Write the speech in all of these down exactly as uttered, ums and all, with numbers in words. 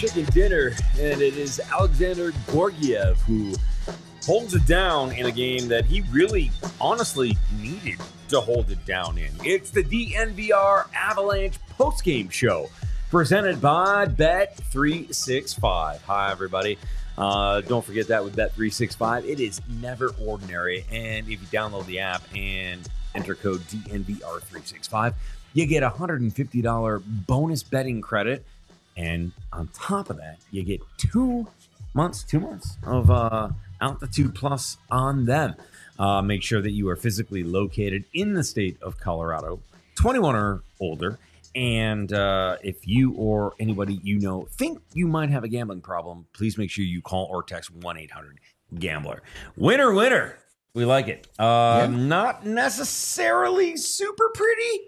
chicken dinner, and it is Alexander Georgiev who holds it down in a game that he really, honestly, needed to hold it down in. It's the D N V R Avalanche postgame show presented by Bet three sixty-five. Hi, everybody. Uh, don't forget that with Bet three sixty-five, it is never ordinary. And if you download the app and enter code D N V R three sixty-five, you get a one hundred fifty dollars bonus betting credit. And on top of that, you get two months, two months of uh, Altitude Plus on them. Uh, make sure that you are physically located in the state of Colorado, twenty-one or older. And uh, if you or anybody you know think you might have a gambling problem, please make sure you call or text one eight hundred gambler. Winner, winner. We like it. Uh, yeah. Not necessarily super pretty.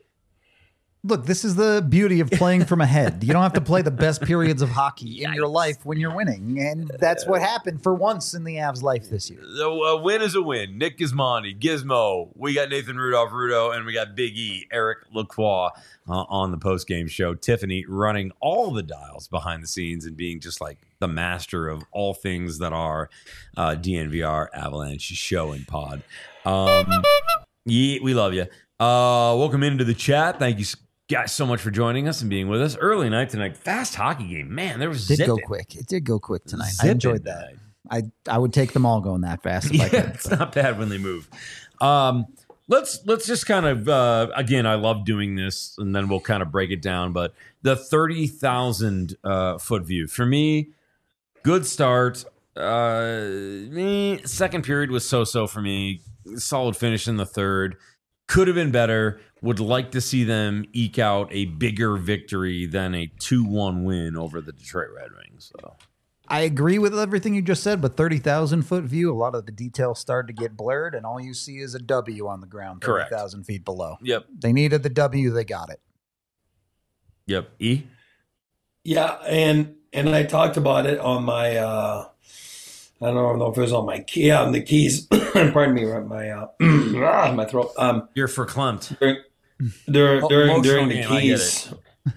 Look, this is the beauty of playing from ahead. You don't have to play the best periods of hockey in your life when you're winning. And that's what happened for once in the Avs' life this year. So a win is a win. Nick Gismondi, Gizmo. We got Nathan Rudolph Rudo, and we got Big E, Eric Lacroix uh, on the postgame show. Tiffany running all the dials behind the scenes and being just like the master of all things that are uh, D N V R Avalanche show and pod. Um, yeah, we love you. Uh, welcome into the chat. Thank you guys so much for joining us and being with us. Early night tonight, fast hockey game. Man, there was it did zipping. go quick. It did go quick tonight. Zipping I enjoyed that. tonight. I I would take them all going that fast. If Yeah, I could, it's not bad when they move. Um, let's let's just kind of uh, again. I love doing this, and then we'll kind of break it down. But the thirty thousand uh, foot view for me, good start. Uh, me second period was so so for me. Solid finish in the third. Could have been better. Would like to see them eke out a bigger victory than a two one win over the Detroit Red Wings. So I agree with everything you just said, but thirty thousand foot view, a lot of the details started to get blurred, and all you see is a W on the ground thirty thousand feet below. Yep. They needed the W. They got it. Yep. E? Yeah, and and I talked about it on my, uh, I don't know if it was on my key, yeah, on the keys. Pardon me, my uh, my throat. Um, You're verklempt. During during, Oh, during, during the game, I get keys.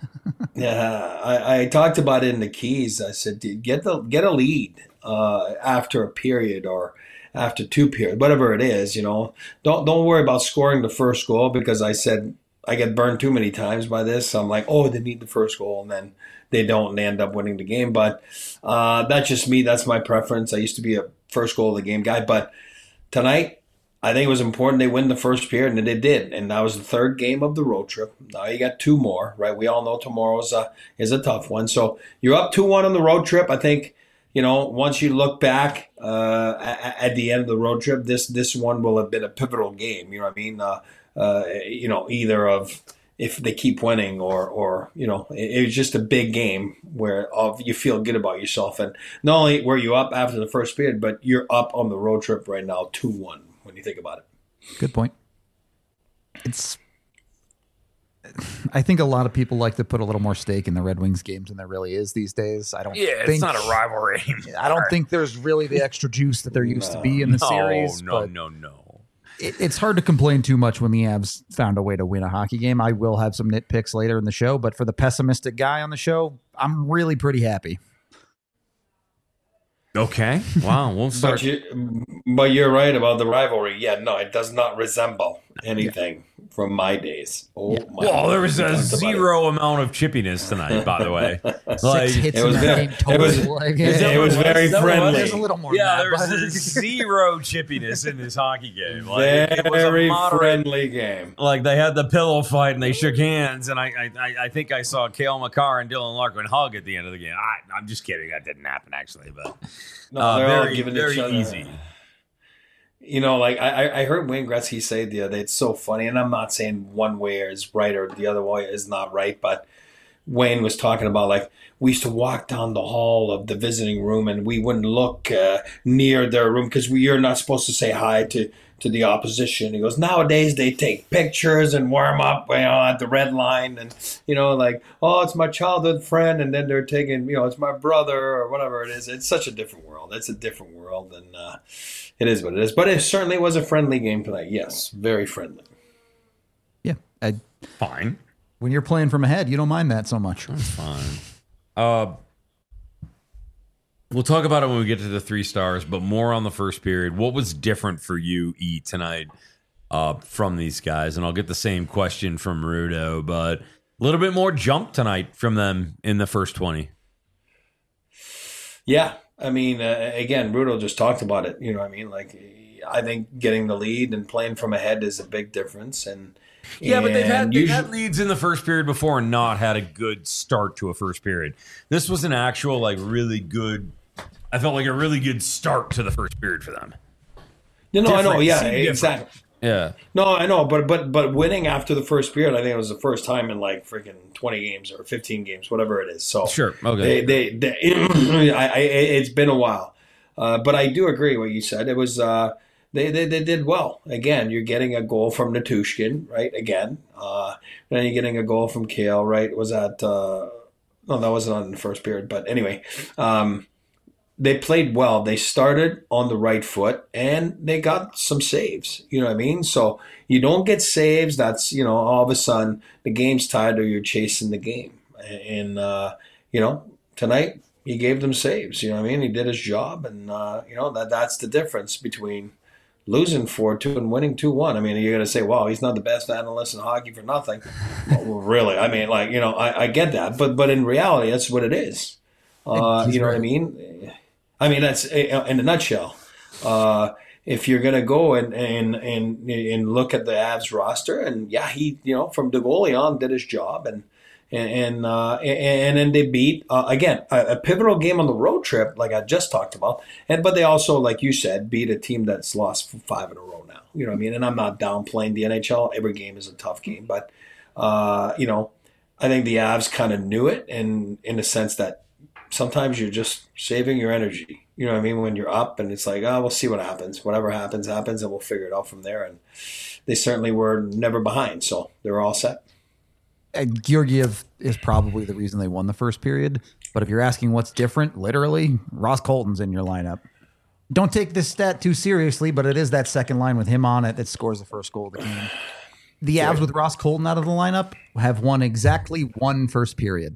Yeah, I, I talked about it in the keys. I said, "Dude, get the get a lead uh, after a period or after two periods, whatever it is. You know, don't don't worry about scoring the first goal because I said I get burned too many times by this. So I'm like, oh, they need the first goal, and then they don't, and they end up winning the game. But uh, that's just me. That's my preference. I used to be a first goal of the game guy, but tonight, I think it was important they win the first period, and they did. And that was the third game of the road trip. Now you got two more, right? We all know tomorrow's a, is a tough one. So you're up two one on the road trip. I think, you know, once you look back uh, at, at the end of the road trip, this this one will have been a pivotal game. You know what I mean? Uh, uh, you know, either of if they keep winning or, or you know, it, it was just a big game where of you feel good about yourself. And not only were you up after the first period, but you're up on the road trip right now two one. When you think about it. Good point. It's, I think a lot of people like to put a little more stake in the Red Wings games than there really is these days. I don't Yeah, think, it's not a rivalry anymore. I don't think there's really the extra juice that there used to be in the no, series. No, but no, no. It, it's hard to complain too much when the Avs found a way to win a hockey game. I will have some nitpicks later in the show, but for the pessimistic guy on the show, I'm really pretty happy. Okay. Wow. We'll start. But, you, but you're right about the rivalry. Yeah, no, it does not resemble anything yeah. from my days. Oh, yeah. my Well, God. there was a zero amount of chippiness tonight, by the way. Six hits in the game total. It was, like, it, it was very friendly. There's a little more. Yeah, than there that, was but- a zero chippiness in this hockey game. Like, it, it was a very moderate, friendly game. Like they had the pillow fight and they shook hands, and I I, I think I saw Cale Makar and Dylan Larkin hug at the end of the game. I, I'm just kidding. That didn't happen actually, but No, uh, they're all very giving very each other. easy. You know, like I, I heard Wayne Gretzky say the other day, it's so funny, and I'm not saying one way is right or the other way is not right, but Wayne was talking about like we used to walk down the hall of the visiting room and we wouldn't look uh, near their room because we you're not supposed to say hi to, to the opposition. He goes, nowadays they take pictures and warm up, you know, at the red line and, you know, like, oh, it's my childhood friend, and then they're taking, you know, it's my brother or whatever it is. It's such a different world. It's a different world, and uh, it is what it is. But it certainly was a friendly game tonight. Yes, very friendly. Yeah, I, Fine. when you're playing from ahead, you don't mind that so much. That's fine. Uh, We'll talk about it when we get to the three stars, but more on the first period. What was different for you, E, tonight uh, from these guys? And I'll get the same question from Rudo, but a little bit more jump tonight from them in the first twenty. Yeah. I mean, uh, again, Rudo just talked about it. You know what I mean? Like, I think getting the lead and playing from ahead is a big difference. And Yeah, but they've had, they've usually, had leads in the first period before and not had a good start to a first period. This was an actual, like, really good, I felt like a really good start to the first period for them. You know, I know, Different, yeah, seemed exactly. different. Yeah. No, I know, but but but winning after the first period, I think it was the first time in like freaking twenty games or fifteen games, whatever it is. So Sure, okay. they they, they I, I, it's been a while, uh, but I do agree what you said. It was uh, they, they they did well. Again, you're getting a goal from Natushkin, right? Again, uh, then you're getting a goal from Kale, right? Was that uh, no, that wasn't on in the first period, but anyway. Um, They played well. They started on the right foot, and they got some saves. You know what I mean? So you don't get saves. That's, you know, all of a sudden the game's tied or you're chasing the game. And, uh, you know, tonight he gave them saves. You know what I mean? He did his job, and, uh, you know, that that's the difference between losing four two and winning two one. I mean, you're going to say, wow, he's not the best analyst in hockey for nothing. Well, really? I mean, like, you know, I, I get that. But, but in reality, that's what it is. Uh, you know what I mean? I mean, that's in a nutshell. Uh, if you're going to go and, and and and look at the Avs roster, and yeah, he, you know, from the goalie on did his job, and and uh, and then they beat uh, again a, a pivotal game on the road trip, like I just talked about, and but they also, like you said, beat a team that's lost five in a row now. You know what I mean? And I'm not downplaying the N H L. Every game is a tough game, but uh, you know, I think the Avs kind of knew it, and in the sense that sometimes you're just saving your energy. You know what I mean? When you're up and it's like, oh, we'll see what happens. Whatever happens, happens, and we'll figure it out from there. And they certainly were never behind, so they were all set. Uh, Georgiev is probably the reason they won the first period. But if you're asking what's different, literally, Ross Colton's in your lineup. Don't take this stat too seriously, but it is that second line with him on it that scores the first goal of the game. The Avs with Ross Colton out of the lineup have won exactly one first period.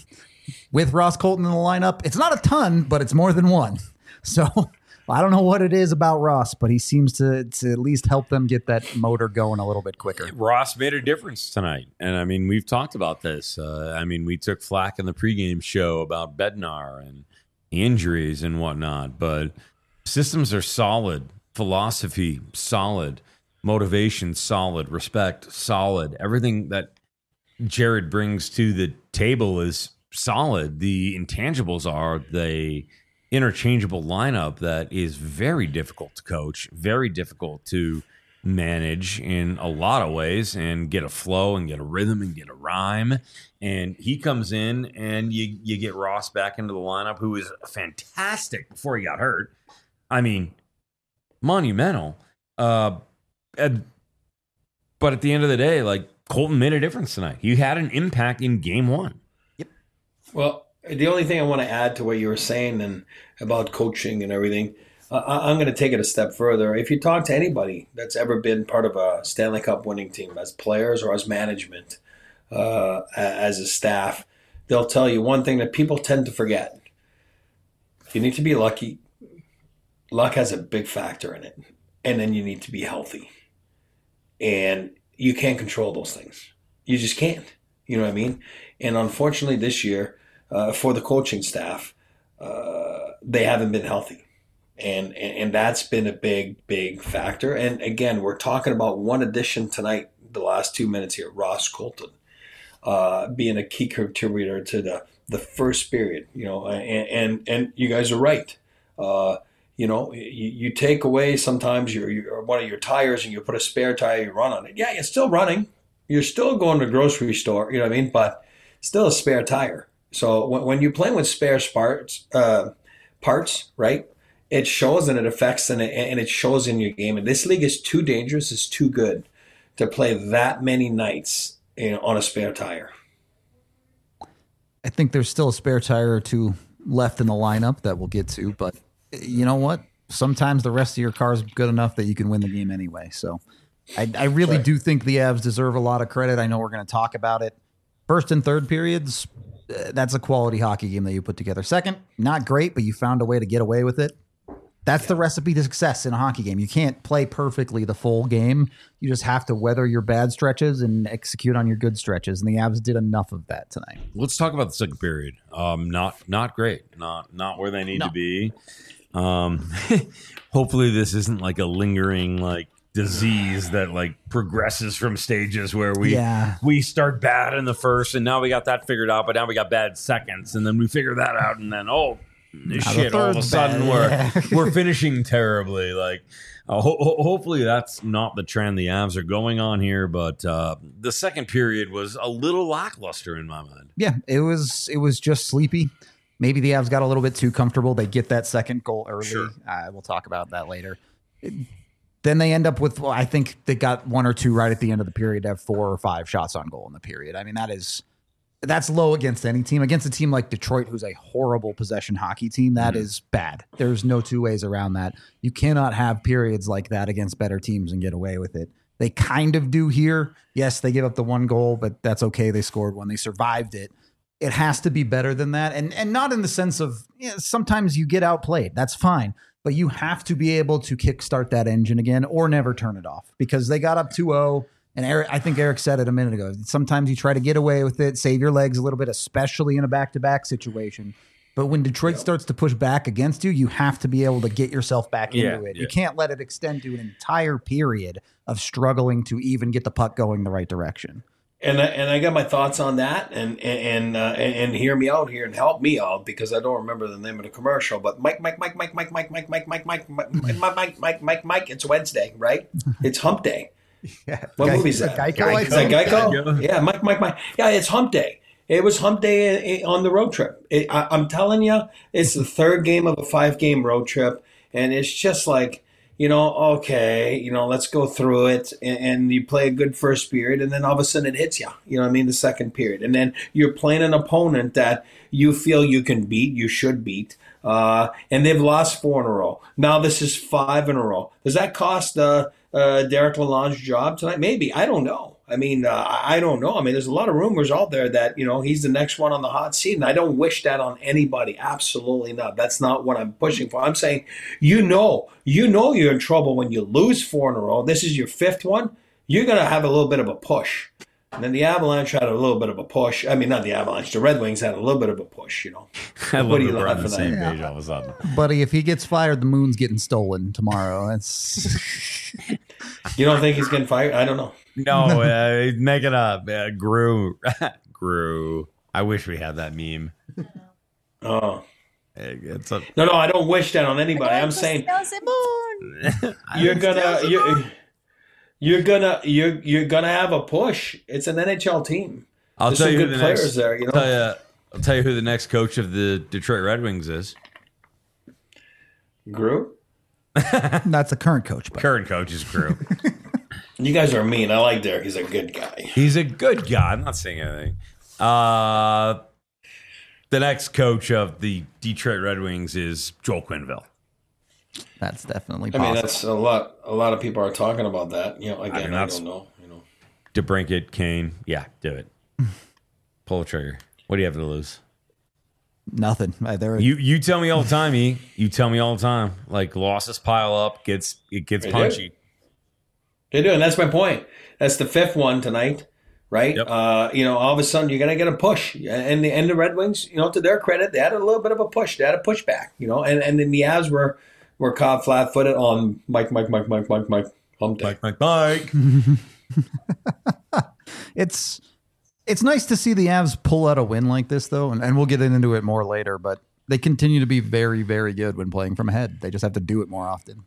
With Ross Colton in the lineup, it's not a ton, but it's more than one. So I don't know what it is about Ross, but he seems to, to at least help them get that motor going a little bit quicker. Ross made a difference tonight. And, I mean, we've talked about this. Uh, I mean, we took flack in the pregame show about Bednar and injuries and whatnot, but systems are solid, philosophy solid, motivation solid, respect solid. Everything that Jared brings to the table is solid. The intangibles are the interchangeable lineup that is very difficult to coach, very difficult to manage in a lot of ways, and get a flow and get a rhythm and get a rhyme. And he comes in and you you get Ross back into the lineup, who is fantastic before he got hurt. I mean, monumental. Uh, and, but at the end of the day, like, Colton made a difference tonight. He had an impact in game one. Well, the only thing I want to add to what you were saying and about coaching and everything, uh, I'm going to take it a step further. If you talk to anybody that's ever been part of a Stanley Cup winning team, as players or as management, uh, as a staff, they'll tell you one thing that people tend to forget. You need to be lucky. Luck has a big factor in it. And then you need to be healthy. And you can't control those things. You just can't. You know what I mean? And unfortunately this year, Uh, for the coaching staff, uh, they haven't been healthy. And, and and that's been a big, big factor. And again, we're talking about one addition tonight, the last two minutes here, Ross Colton, uh, being a key contributor to the, the first period, you know, and, and, and you guys are right. Uh, you know, you, you take away sometimes your, your one of your tires and you put a spare tire, you run on it. Yeah, you're still running. You're still going to the grocery store, you know what I mean? But still a spare tire. So when, when you're playing with spare parts, uh, parts, right, it shows and it affects and it, and it shows in your game. And this league is too dangerous, it's too good to play that many nights, you know, on a spare tire. I think there's still a spare tire or two left in the lineup that we'll get to, but you know what? Sometimes the rest of your car is good enough that you can win the game anyway. So I, I really right. do think the Avs deserve a lot of credit. I know we're going to talk about it. First and third periods, uh, that's a quality hockey game that you put together. Second, not great, but you found a way to get away with it. That's the recipe to success in a hockey game. You can't play perfectly the full game. You just have to weather your bad stretches and execute on your good stretches. And the Avs did enough of that tonight. Let's talk about the second period. Um, not not great. Not not where they need No. to be. Um, hopefully this isn't like a lingering like disease that like progresses from stages where we Yeah. we start bad in the first and now we got that figured out, but now we got bad seconds and then we figure that out and then oh shit, all of a third's sudden bad. we're we're finishing terribly. Like uh, ho- ho- hopefully that's not the trend the Avs are going on here, but uh, the second period was a little lackluster in my mind. Yeah, it was it was just sleepy. Maybe the Avs got a little bit too comfortable. They get that second goal early. Sure. Uh, we'll talk about that later. Then they end up with, well, I think they got one or two right at the end of the period to have four or five shots on goal in the period. I mean, that is, that's low against any team. Against a team like Detroit, who's a horrible possession hockey team, that Mm-hmm. is bad. There's no two ways around that. You cannot have periods like that against better teams and get away with it. They kind of do here. Yes, they give up the one goal, but that's okay. They scored when they survived it. It has to be better than that. And and not in the sense of, you know, sometimes you get outplayed. That's fine. But you have to be able to kickstart that engine again or never turn it off because they got up two oh. And Eric, I think Eric said it a minute ago. Sometimes you try to get away with it, save your legs a little bit, especially in a back-to-back situation. But when Detroit starts to push back against you, you have to be able to get yourself back Yeah, into it. yeah. You can't let it extend to an entire period of struggling to even get the puck going the right direction. And I, and I got my thoughts on that, and and uh, and, and hear me out here and help me out because I don't remember the name of the commercial. But Mike, Mike, Mike, Mike, Mike, Mike, Mike, Mike, Mike, Mike, Mike, Mike, Mike, Mike, Mike, Mike. It's Wednesday, right? It's Hump Day. Yeah. What Guy- movie is is that? it Geico, I Is that think? Geico? Yeah, Mike, Mike, Mike. Yeah, it's Hump Day. It was Hump Day on the road trip. It, I, I'm telling you, it's the third game of a five-game road trip, and it's just like, you know, okay, you know, let's go through it, and, and you play a good first period, and then all of a sudden it hits you. You know what I mean? The second period, and then you're playing an opponent that you feel you can beat, you should beat, uh, and they've lost four in a row. Now this is five in a row. Does that cost uh, uh, Derek Lalonde's job tonight? Maybe. I don't know. I mean, uh, I don't know. I mean, there's a lot of rumors out there that, you know, he's the next one on the hot seat, and I don't wish that on anybody. Absolutely not. That's not what I'm pushing for. I'm saying, you know, you know you're in trouble when you lose four in a row. This is your fifth one. You're going to have a little bit of a push. And then the Avalanche had a little bit of a push. I mean, not the Avalanche. The Red Wings had a little bit of a push, you know. I love What do you that we're on laughing the at? same Yeah. page all of a sudden. Buddy, if he gets fired, the moon's getting stolen tomorrow. That's You don't think he's getting fired? I don't know. No, uh, make it up. Uh, Grew. Grew. I wish we had that meme. Oh. It's a, No, no, I don't wish that on anybody. I'm saying you're gonna you're, you're gonna you're you're gonna have a push. It's an N H L team. I'll There's tell some you who good the players next, there, you know. I'll tell you, I'll tell you who the next coach of the Detroit Red Wings is. Group. that's the current coach. But Current coach is Grew. You guys are mean. I like Derek. He's a good guy. He's a good guy. I'm not saying anything. Uh, the next coach of the Detroit Red Wings is Joel Quenneville. that's definitely I possible. mean, that's a lot. A lot of people are talking about that. You know, again, I mean, I, that's- don't know. You know, DeBrincat, Kane. Yeah, do it. Pull the trigger. What do you have to lose? Nothing. Uh, There, You you tell me all the time, E. You tell me all the time. Like losses pile up, gets it gets They punchy. do. They do, and that's my point. That's the fifth one tonight, right? Yep. Uh, you know, all of a sudden you're gonna get a push, and the and the Red Wings, you know, to their credit, they had a little bit of a push. They had a pushback, you know, and and then the Avs were were caught flat-footed on Mike, Mike, Mike, Mike, Mike, Mike, Hump Day. Mike, Mike, Mike. it's it's nice to see the Avs pull out a win like this, though, and, and we'll get into it more later. But they continue to be very, very good when playing from ahead. They just have to do it more often.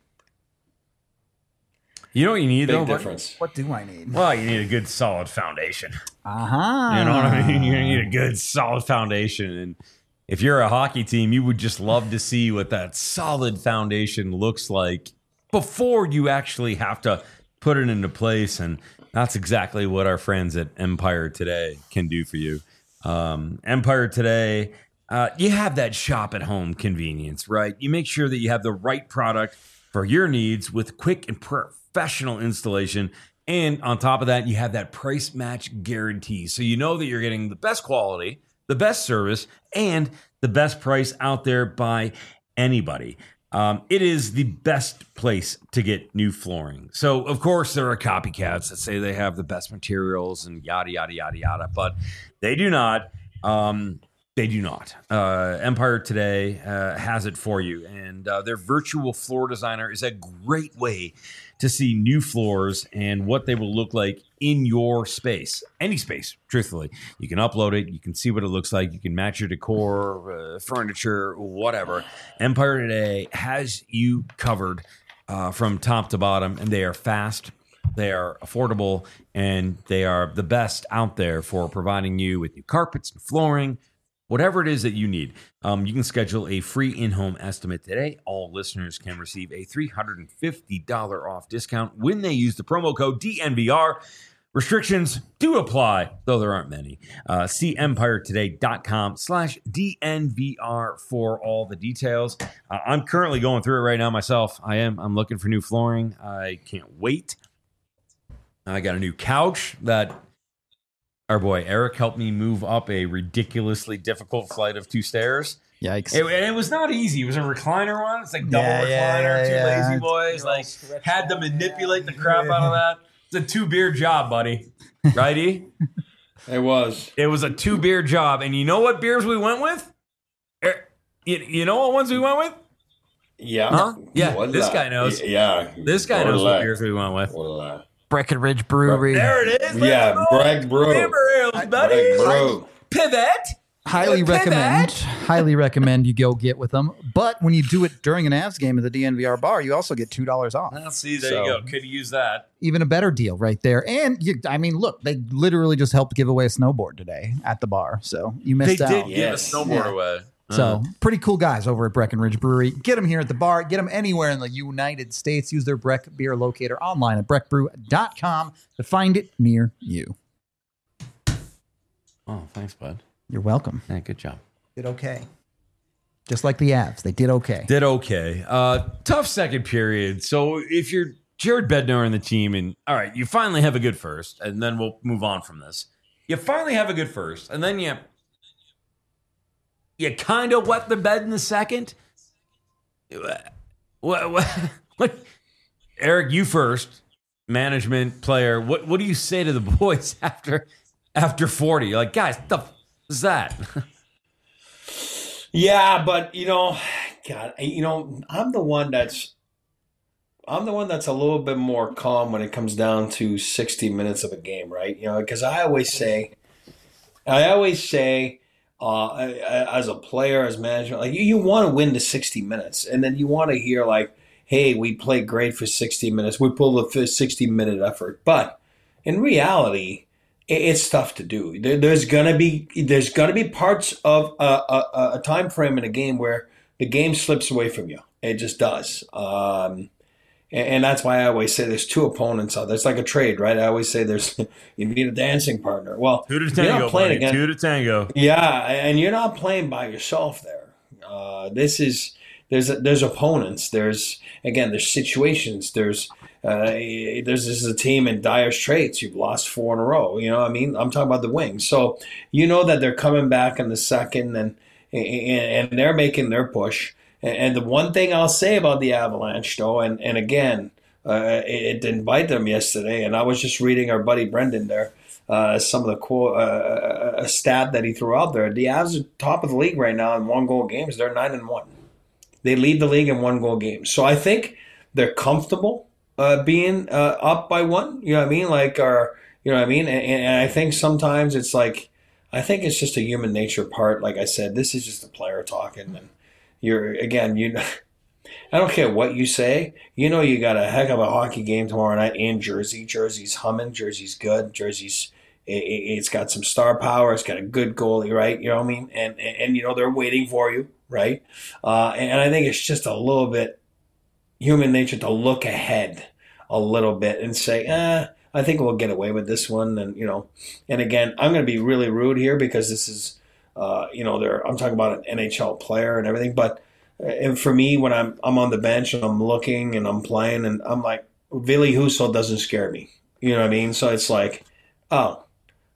You know what you need Big though? difference. What do I need? Well, you need a good solid foundation. Uh huh. You know what I mean? You need a good solid foundation. And if you're a hockey team, you would just love to see what that solid foundation looks like before you actually have to put it into place. And that's exactly what our friends at Empire Today can do for you. Um, Empire Today, uh, you have that shop at home convenience, right? You make sure that you have the right product for your needs with quick and professional installation. And on top of that, you have that price match guarantee. So you know that you're getting the best quality the best service, and the best price out there by anybody. Um, it is the best place to get new flooring. So, of course, there are copycats that say they have the best materials and yada, yada, yada, yada, but they do not. Um, they do not. Uh, Empire Today uh, has it for you, and uh, their virtual floor designer is a great way to see new floors and what they will look like in your space, any space, truthfully. You can upload it. You can see what it looks like. You can match your decor, uh, furniture, whatever. Empire Today has you covered uh, from top to bottom, and they are fast, they are affordable, and they are the best out there for providing you with new carpets and flooring, whatever it is that you need. Um, you can schedule a free in-home estimate today. All listeners can receive a three hundred fifty dollars off discount when they use the promo code D N V R. Restrictions do apply, though there aren't many. Uh, see empiretoday.com slash DNVR for all the details. Uh, I'm currently going through it right now myself. I am. I'm looking for new flooring. I can't wait. I got a new couch that our boy Eric helped me move up a ridiculously difficult flight of two stairs. Yikes. It, and it was not easy. It was a recliner one. It's like double Yeah, recliner, yeah, two yeah. lazy boys. Like, had to manipulate the crap out of that. It's a two beer job, buddy. Right, E? It was. It was a two beer job. And you know what beers we went with? Er, You, you know what ones we went with? Yeah. Huh? Yeah, What's this that? guy knows. Yeah. This guy What knows is what that? beers we went with. What is that? Breckenridge Brewery. There it is. Yeah, Let's go. Bragg Brew. Amber ales, buddy. Bragg Brew. Pivot. Highly Pivot. recommend. Highly recommend you go get with them. But when you do it during an Avs game at the D N V R bar, you also get two dollars off. Well, see, there So- you go. Could use that. Even a better deal right there. And you, I mean, look, they literally just helped give away a snowboard today at the bar. So you They missed did out. give Yes. a snowboard Yeah. away. So Uh, pretty cool guys over at Breckenridge Brewery. Get them here at the bar. Get them anywhere in the United States. Use their Breck beer locator online at breck brew dot com to find it near you. oh, thanks, bud. You're welcome. Yeah, good job. Did okay. Just like the Avs, they did okay. Did okay. Uh, tough second period. So if you're Jared Bednar and the team, and all right, you finally have a good first, and then we'll move on from this. You finally have a good first, and then you you kind of wet the bed in the second. What, what, what? Eric, you first. Management, player. What what do you say to the boys after after forty? You're like, guys, what the f- is that? Yeah, but you know, God, you know, I'm the one that's I'm the one that's a little bit more calm when it comes down to sixty minutes of a game, right? You know, because I always say, I always say, uh, as a player, as management, like you, you want to win the sixty minutes, and then you want to hear like, hey, we played great for sixty minutes, we pulled a sixty minute effort, but in reality, it's tough to do. There, there's gonna be there's gonna be parts of a, a, a time frame in a game where the game slips away from you. It just does, um, and, and that's why I always say there's two opponents out there. It's like a trade, right? I always say there's you need a dancing partner. Well, Two to you're tango, not playing buddy. against Two to tango. yeah, and you're not playing by yourself there. Uh, this is there's there's opponents. There's again there's situations. There's uh, there's this is a team in dire straits. You've lost four in a row. You know what I mean? I'm talking about the Wings. So you know that they're coming back in the second, and and, and they're making their push. And, and the one thing I'll say about the Avalanche, though, and and again, uh, it, it didn't bite them yesterday. And I was just reading our buddy Brendan there. Uh, some of the quote, uh, a stat that he threw out there. The Avs are top of the league right now in one goal games. They're nine and one. They lead the league in one goal games. So I think they're comfortable uh, being uh, up by one. You know what I mean? Like, or you know what I mean? And, and I think sometimes it's like, I think it's just a human nature part. Like I said, this is just a player talking, and you're again, you. I don't care what you say. You know you got a heck of a hockey game tomorrow night in Jersey. Jersey's humming. Jersey's good. Jersey's it, it's got some star power. It's got a good goalie, right? You know what I mean? And and, and you know they're waiting for you, right? Uh, and, and I think it's just a little bit human nature to look ahead a little bit and say, eh, I think we'll get away with this one. And you know, and again, I'm going to be really rude here because this is, uh, you know, there. I'm talking about an N H L player and everything, but. And for me, when I'm I'm on the bench and I'm looking and I'm playing and I'm like, Ville Husso doesn't scare me. You know what I mean? So it's like, oh,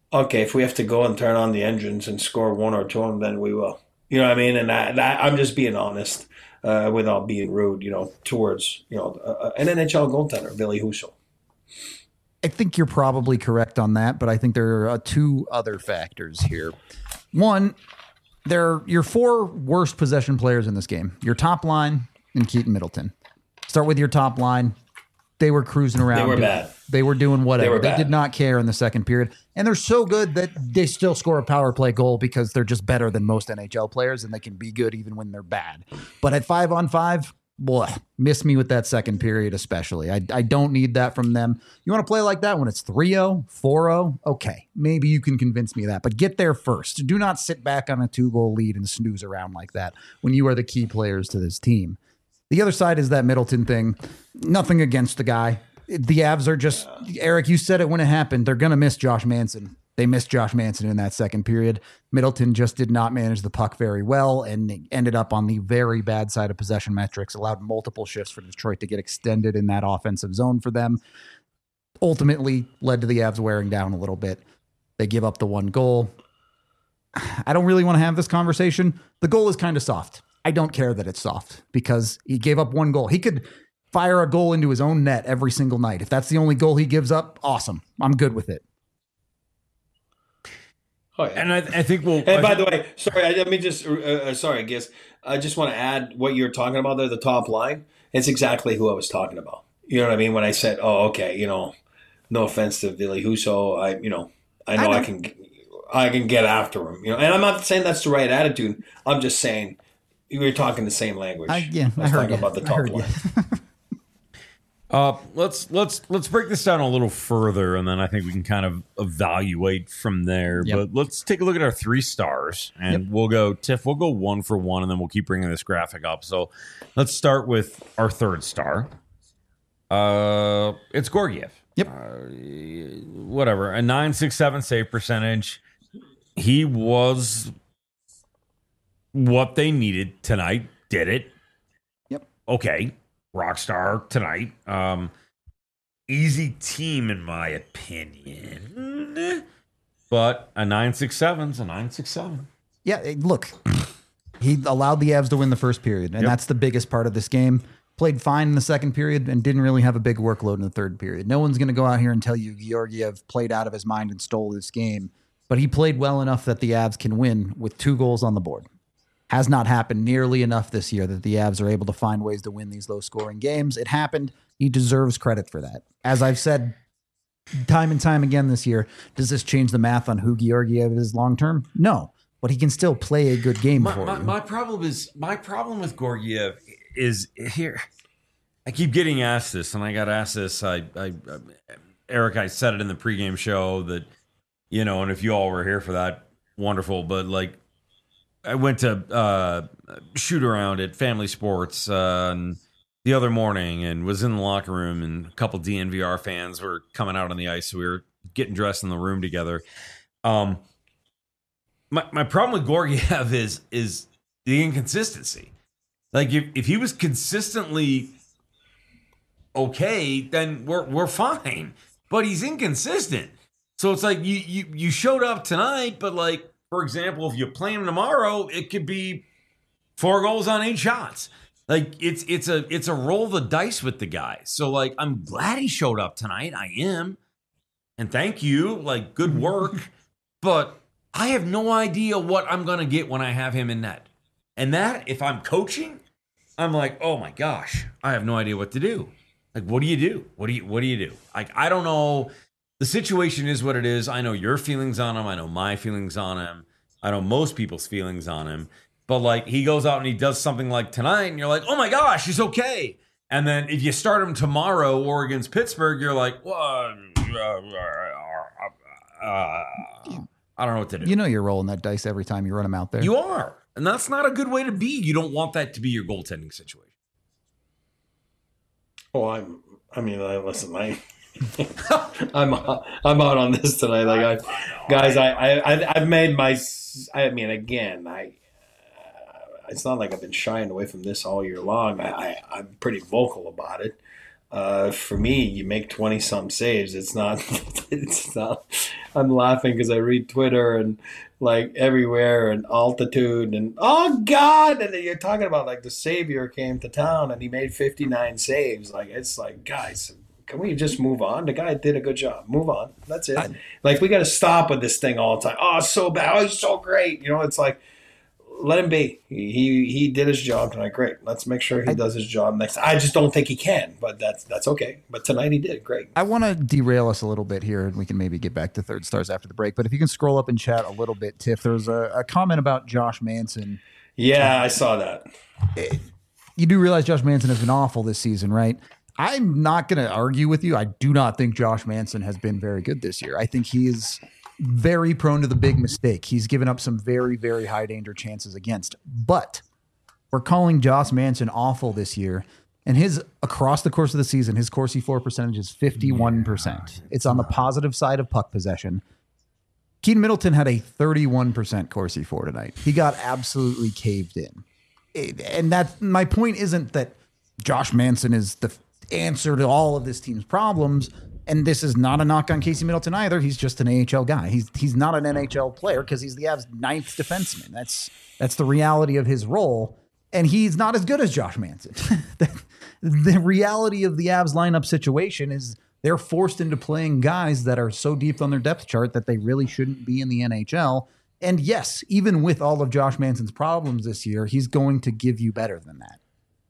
okay, if we have to go and turn on the engines and score one or two of them, then we will. You know what I mean? And I, I, I'm just being honest uh, without being rude, you know, towards, you know, uh, an N H L goaltender, Billy Husso. I think you're probably correct on that, but I think there are uh, two other factors here. One, there are your four worst possession players in this game. Your top line and Keaton Middleton. Start with your top line. They were cruising around. They were doing, bad. They were doing whatever. They, they did not care in the second period. And they're so good that they still score a power play goal because they're just better than most N H L players and they can be good even when they're bad. But at five on five, boy, miss me with that second period especially. I, I don't need that from them. You want to play like that when it's three oh, four oh? Okay, maybe you can convince me of that. But get there first. Do not sit back on a two-goal lead and snooze around like that when you are the key players to this team. The other side is that Middleton thing. Nothing against the guy. The Avs are just, Eric, you said it when it happened. They're going to miss Josh Manson. They missed Josh Manson in that second period. Middleton just did not manage the puck very well and ended up on the very bad side of possession metrics, allowed multiple shifts for Detroit to get extended in that offensive zone for them. Ultimately led to the Avs wearing down a little bit. They give up the one goal. I don't really want to have this conversation. The goal is kind of soft. I don't care that it's soft because he gave up one goal. He could fire a goal into his own net every single night. If that's the only goal he gives up, awesome. I'm good with it. Oh, yeah. And I, I think we'll. And by the way, sorry, I, let me just, uh, uh, sorry, I guess, I just want to add what you're talking about there, the top line. It's exactly who I was talking about. You know what I mean? When I said, oh, okay, you know, no offense to Billy Husso, I, you know, I know I, know I can, I can get after him, you know, and I'm not saying that's the right attitude. I'm just saying, we were talking the same language. I, yeah, I was I heard talking you. about the top line. Uh, let's let's let's break this down a little further, and then I think we can kind of evaluate from there. Yep. But let's take a look at our three stars, and yep. we'll go Tiff. We'll go one for one, and then we'll keep bringing this graphic up. So let's start with our third star. Uh, it's Georgiev. Yep. Uh, whatever, a nine six seven save percentage. He was what they needed tonight. Did it? Yep. Okay. Rockstar tonight. Um, easy team, in my opinion. But a nine six seven's a nine six seven. Yeah, look, he allowed the Avs to win the first period, and yep. that's the biggest part of this game. Played fine in the second period and didn't really have a big workload in the third period. No one's going to go out here and tell you Georgiev played out of his mind and stole this game, but he played well enough that the Avs can win with two goals on the board. Has not happened nearly enough this year that the Avs are able to find ways to win these low-scoring games. It happened. He deserves credit for that. As I've said time and time again this year, does this change the math on who Georgiev is long-term? No, but he can still play a good game my, for my, you. My problem is my problem with Georgiev is here. I keep getting asked this, and I got asked this. I, I, I Eric, I said it in the pregame show that, you know, and if you all were here for that, wonderful. But like, I went to uh, shoot around at Family Sports uh, and the other morning and was in the locker room, and a couple D N V R fans were coming out on the ice. So we were getting dressed in the room together. Um, my my problem with Georgiev is is the inconsistency. Like if, if he was consistently okay, then we're we're fine. But he's inconsistent. So it's like you you you showed up tonight, but like, for example, if you play him tomorrow, it could be four goals on eight shots. Like it's it's a it's a roll the dice with the guy. So like, I'm glad he showed up tonight. I am, and thank you. Like, good work. But I have no idea what I'm gonna get when I have him in net. And that, if I'm coaching, I'm like, oh my gosh, I have no idea what to do. Like, what do you do? What do you what do you do? Like, I don't know. The situation is what it is. I know your feelings on him. I know my feelings on him. I know most people's feelings on him. But, like, he goes out and he does something like tonight, and you're like, oh, my gosh, he's okay. And then if you start him tomorrow or against Pittsburgh, you're like, well, uh, uh, I don't know what to do. You know you're rolling that dice every time you run him out there. You are. And that's not a good way to be. You don't want that to be your goaltending situation. Oh, I'm, I mean, I, listen, I... I'm I'm out on this tonight. Like, I, guys, I I I've made my. I mean, again, I. Uh, it's not like I've been shying away from this all year long. I, I I'm pretty vocal about it. Uh, for me, you make twenty some saves. It's not, it's not, I'm laughing because I read Twitter and like everywhere and altitude and oh God. And then you're talking about like the savior came to town and he made fifty-nine saves. Like, it's like, guys, can we just move on? The guy did a good job. Move on. That's it. I, like, we got to stop with this thing all the time. Oh, it's so bad. Oh, he's so great. You know, it's like, let him be. He, he he did his job tonight. Great. Let's make sure he I, does his job next time. I just don't think he can, but that's that's okay. But tonight he did. Great. I want to derail us a little bit here, and we can maybe get back to third stars after the break. But if you can scroll up and chat a little bit, Tiff, there's a, a comment about Josh Manson. Yeah, I saw that. It, you do realize Josh Manson has been awful this season, right? I'm not going to argue with you. I do not think Josh Manson has been very good this year. I think he is very prone to the big mistake. He's given up some very, very high danger chances against. But we're calling Josh Manson awful this year. And his, across the course of the season, his Corsi for percentage is fifty-one percent. Yeah, it's on the positive side of puck possession. Keaton Middleton had a thirty-one percent Corsi for tonight. He got absolutely caved in. It, and that my point isn't that Josh Manson is the answer to all of this team's problems. And this is not a knock on Casey Middleton either. He's just an A H L guy. He's he's not an N H L player because he's the Avs' ninth defenseman. That's that's the reality of his role. And he's not as good as Josh Manson. the, the reality of the Avs lineup situation is they're forced into playing guys that are so deep on their depth chart that they really shouldn't be in the N H L. And yes, even with all of Josh Manson's problems this year, he's going to give you better than that.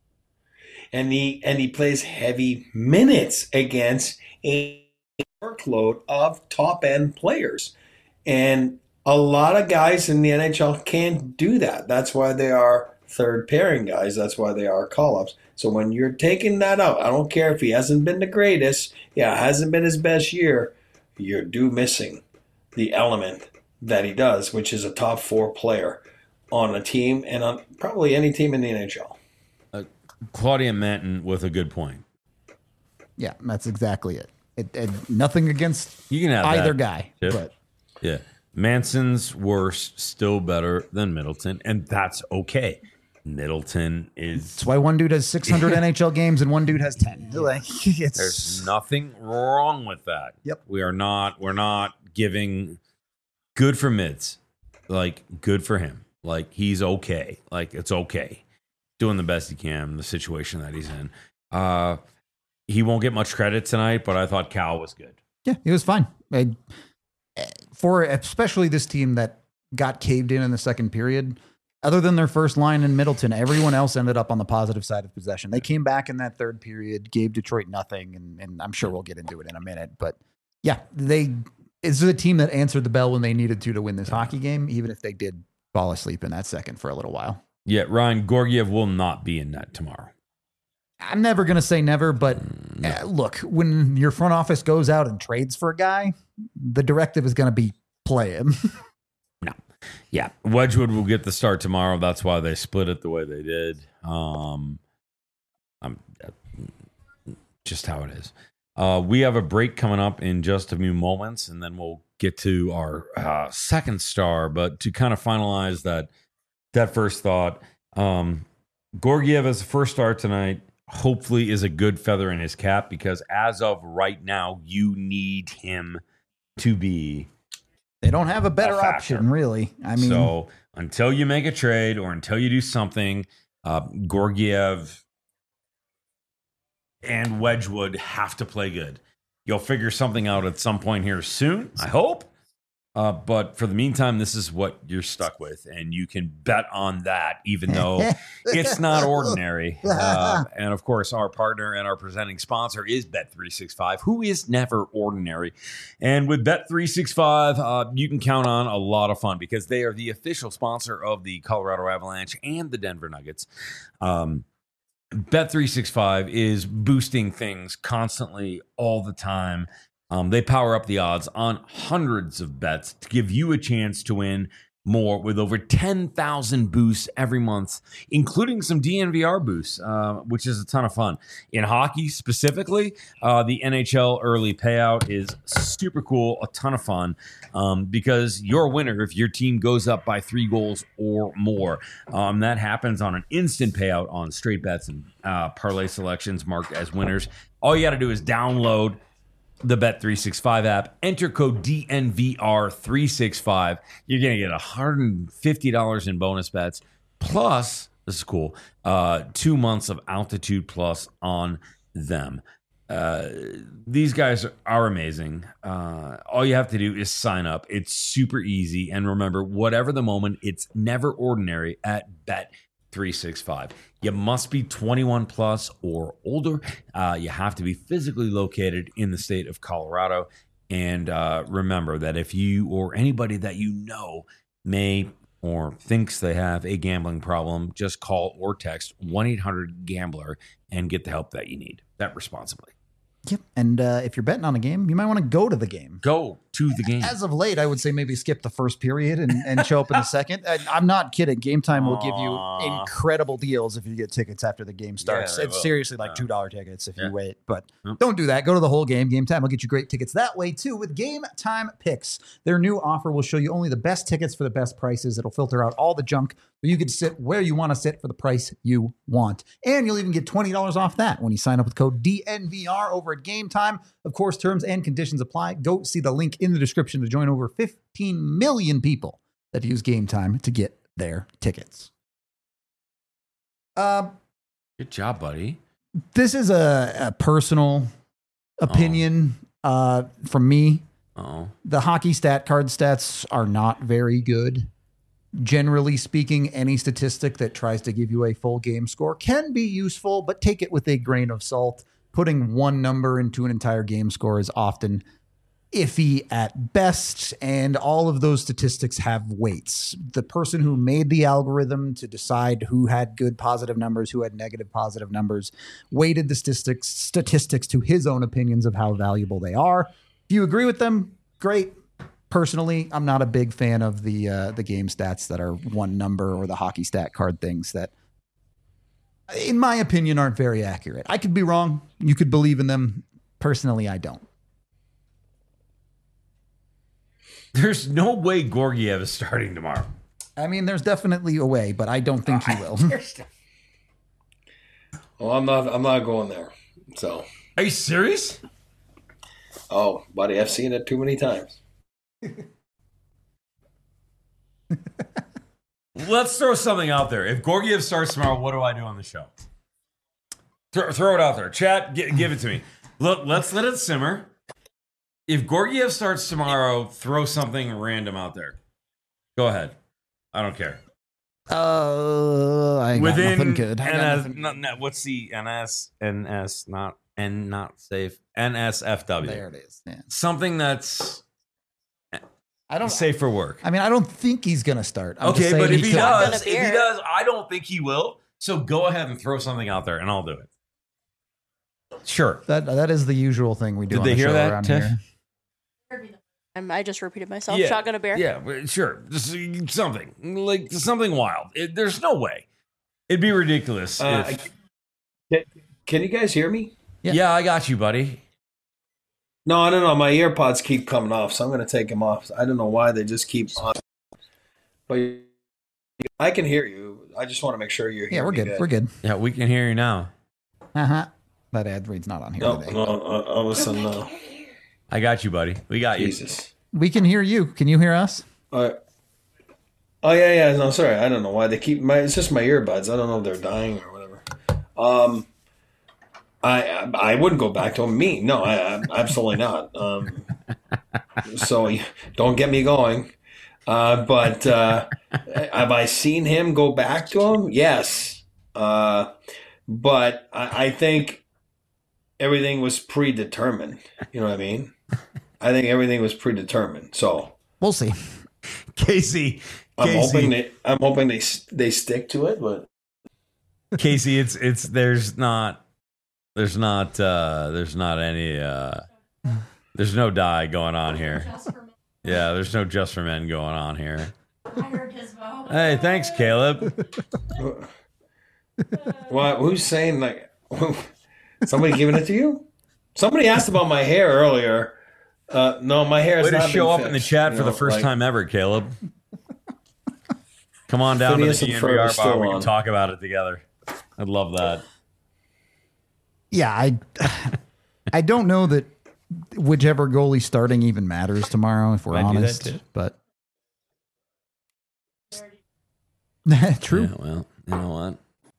And he and he plays heavy minutes against a workload of top end players. And a lot of guys in the N H L can't do that. That's why they are third pairing guys. That's why they are call-ups. So when you're taking that out, I don't care if he hasn't been the greatest, yeah, hasn't been his best year, you're due missing the element that he does, which is a top four player on a team and on probably any team in the N H L. Uh, Claudia Manton with a good point. Yeah, that's exactly it. It, it nothing against you can have either that, guy. Chip. But yeah, Manson's worse, still better than Middleton, and that's okay. Middleton is. That's why one dude has six hundred N H L games and one dude has ten. Like, it's, there's nothing wrong with that. Yep. We are not. We're not giving good for mids. Like, good for him. Like, he's okay. Like, it's okay. Doing the best he can in the situation that he's in. Uh, he won't get much credit tonight, but I thought Cal was good. Yeah, he was fine. I, for especially this team that got caved in in the second period. Other than their first line in Middleton, everyone else ended up on the positive side of possession. They came back in that third period, gave Detroit nothing, and, and I'm sure we'll get into it in a minute. But yeah, they it's a team that answered the bell when they needed to to win this hockey game, even if they did fall asleep in that second for a little while. Yeah, Ryan Georgiev will not be in net tomorrow. I'm never going to say never, but no. uh, look, when your front office goes out and trades for a guy, the directive is going to be play him. No. Yeah, Wedgwood will get the start tomorrow. That's why they split it the way they did. Um, I'm, just how it is. Uh, we have a break coming up in just a few moments, and then we'll get to our uh, second star. But to kind of finalize that that first thought, um, Georgiev as the first star tonight hopefully is a good feather in his cap because as of right now, you need him to be. They don't have a better a option, really. I mean, so until you make a trade or until you do something, uh, Georgiev and Wedgwood have to play good. You'll figure something out at some point here soon, I hope. Uh, but for the meantime, this is what you're stuck with, and you can bet on that, even though it's not ordinary. Uh, and of course, our partner and our presenting sponsor is Bet three sixty-five, who is never ordinary. And with Bet three sixty-five, uh, you can count on a lot of fun because they are the official sponsor of the Colorado Avalanche and the Denver Nuggets. Um, Bet three sixty-five is boosting things constantly all the time. Um, they power up the odds on hundreds of bets to give you a chance to win more with over ten thousand boosts every month, including some D N V R boosts, uh, which is a ton of fun. In hockey specifically, uh, the N H L early payout is super cool, a ton of fun, um, because you're a winner if your team goes up by three goals or more. Um, that happens on an instant payout on straight bets and uh, parlay selections marked as winners. All you got to do is download the Bet three sixty-five app, enter code D N V R three sixty-five. You're going to get one hundred fifty dollars in bonus bets, plus, this is cool, uh, two months of Altitude Plus on them. Uh, these guys are amazing. Uh, all you have to do is sign up. It's super easy. And remember, whatever the moment, it's never ordinary at Bet three sixty-five. You must be twenty-one plus or older. Uh, you have to be physically located in the state of Colorado. And uh, remember that if you or anybody that you know may or thinks they have a gambling problem, just call or text one eight hundred gambler and get the help that you need. Bet responsibly. Yep. And uh, if you're betting on a game, you might want to go to the game. Go to the game. As of late, I would say maybe skip the first period and, and show up in the second. I, I'm not kidding. Game Time will give you Aww. incredible deals if you get tickets after the game starts. Yeah, they it's will. seriously like Yeah. two dollar tickets if Yeah. you wait. But Yep. don't do that. Go to the whole game. Game Time will get you great tickets that way, too, with Game Time Picks. Their new offer will show you only the best tickets for the best prices. It'll filter out all the junk so you can sit where you want to sit for the price you want. And you'll even get twenty dollars off that when you sign up with code D N V R over at Game Time. Of course, terms and conditions apply. Go see the link in the description to join over fifteen million people that use Game Time to get their tickets. Um, Good job, buddy. this is a, a personal opinion uh, from me. Oh, The hockey stat card stats are not very good. Generally speaking, any statistic that tries to give you a full game score can be useful, but take it with a grain of salt. Putting one number into an entire game score is often iffy at best, and all of those statistics have weights. The person who made the algorithm to decide who had good positive numbers, who had negative positive numbers, weighted the statistics statistics to his own opinions of how valuable they are. If you agree with them, great. Personally, I'm not a big fan of the uh, the game stats that are one number or the hockey stat card things that, in my opinion, aren't very accurate. I could be wrong. You could believe in them. Personally, I don't. there's no way Gorgiev is starting tomorrow. I mean, there's definitely a way, but I don't think he will. Well, I'm not. I'm not going there. So, Are you serious? oh, buddy, I've seen it too many times. Let's throw something out there. If Gorgiev starts tomorrow, what do I do on the show? Throw, throw it out there. Chat, gi- give it to me. Look, let's let it simmer. If Gorgiev starts tomorrow, throw something random out there. Go ahead. I don't care. Uh, I got Within nothing good. I got N S, nothing- not, not, what's the N S? N S, not N, not safe. N S F W. There it is. Yeah. Something that's I don't. safe for work. I mean, I don't think he's gonna start. I'm just Okay, saying but if he could. does, Shotgun a if he beer. does, I don't think he will. So go ahead and throw something out there, and I'll do it. Sure. that that is the usual thing we do. Did on they the hear show that, around Tiff? here. Um, I just repeated myself. Yeah. Shotgun a bear. Yeah, but sure. Just something like something wild. It, there's no way. It'd be ridiculous. Uh, if, Can, can you guys hear me? yeah. yeah, I got you, buddy. No, I don't know. My earpods keep coming off, so I'm going to take them off. I don't know why they just keep on. But I can hear you. I just want to make sure you're Yeah, hearing we're me good. We're good. Yeah, we can hear you now. Uh huh. That ad read's not on here No, today. no, uh, all of a sudden, no. I got you, buddy. We got you. Jesus. We can hear you. Can you hear us? Uh, oh, yeah, yeah. No, sorry. I don't know why they keep my. It's just my earbuds. I don't know if they're dying or whatever. Um, I I, I wouldn't go back to them. Me, no, I, I absolutely not. Um, so don't get me going. Uh, but uh, have I seen him go back to him? Yes. Uh, but I, I think everything was predetermined. You know what I mean? I think everything was predetermined. So We'll see. Casey, I'm Casey, hoping they. I'm hoping they they stick to it, but. Casey, it's it's there's not there's not uh there's not any uh there's no die going on here. Yeah, there's no just for men going on here. Hey, thanks, Caleb. What? Who's saying like somebody giving it to you? Somebody asked about my hair earlier. Uh, no, my hair is Way to not show been up in the fixed, chat you for the know, first like- time ever, Caleb. Come on down Phineas to the and D N V R Ferb bar. is still We can on. talk about it together. I'd love that. Yeah, I I don't know that whichever goalie starting even matters tomorrow, if we're Might do that honest. too. But true. Yeah, well, you know what?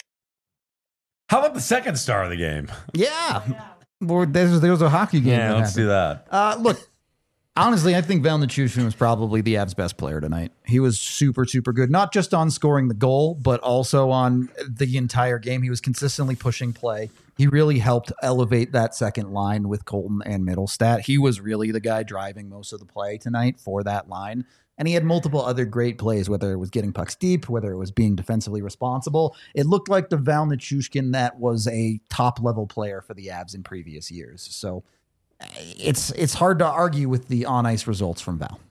How about the second star of the game? Yeah. Well, there's there's a hockey game. Yeah, that let's do happened. that. Uh, look, honestly, I think Val Nichushkin was probably the Avs' best player tonight. He was super, super good, not just on scoring the goal, but also on the entire game. He was consistently pushing play. He really helped elevate that second line with Colton and Middlestat. He was really the guy driving most of the play tonight for that line. And he had multiple other great plays, whether it was getting pucks deep, whether it was being defensively responsible. It looked like the Val Nichushkin that was a top-level player for the Avs in previous years. So it's it's hard to argue with the on-ice results from Val.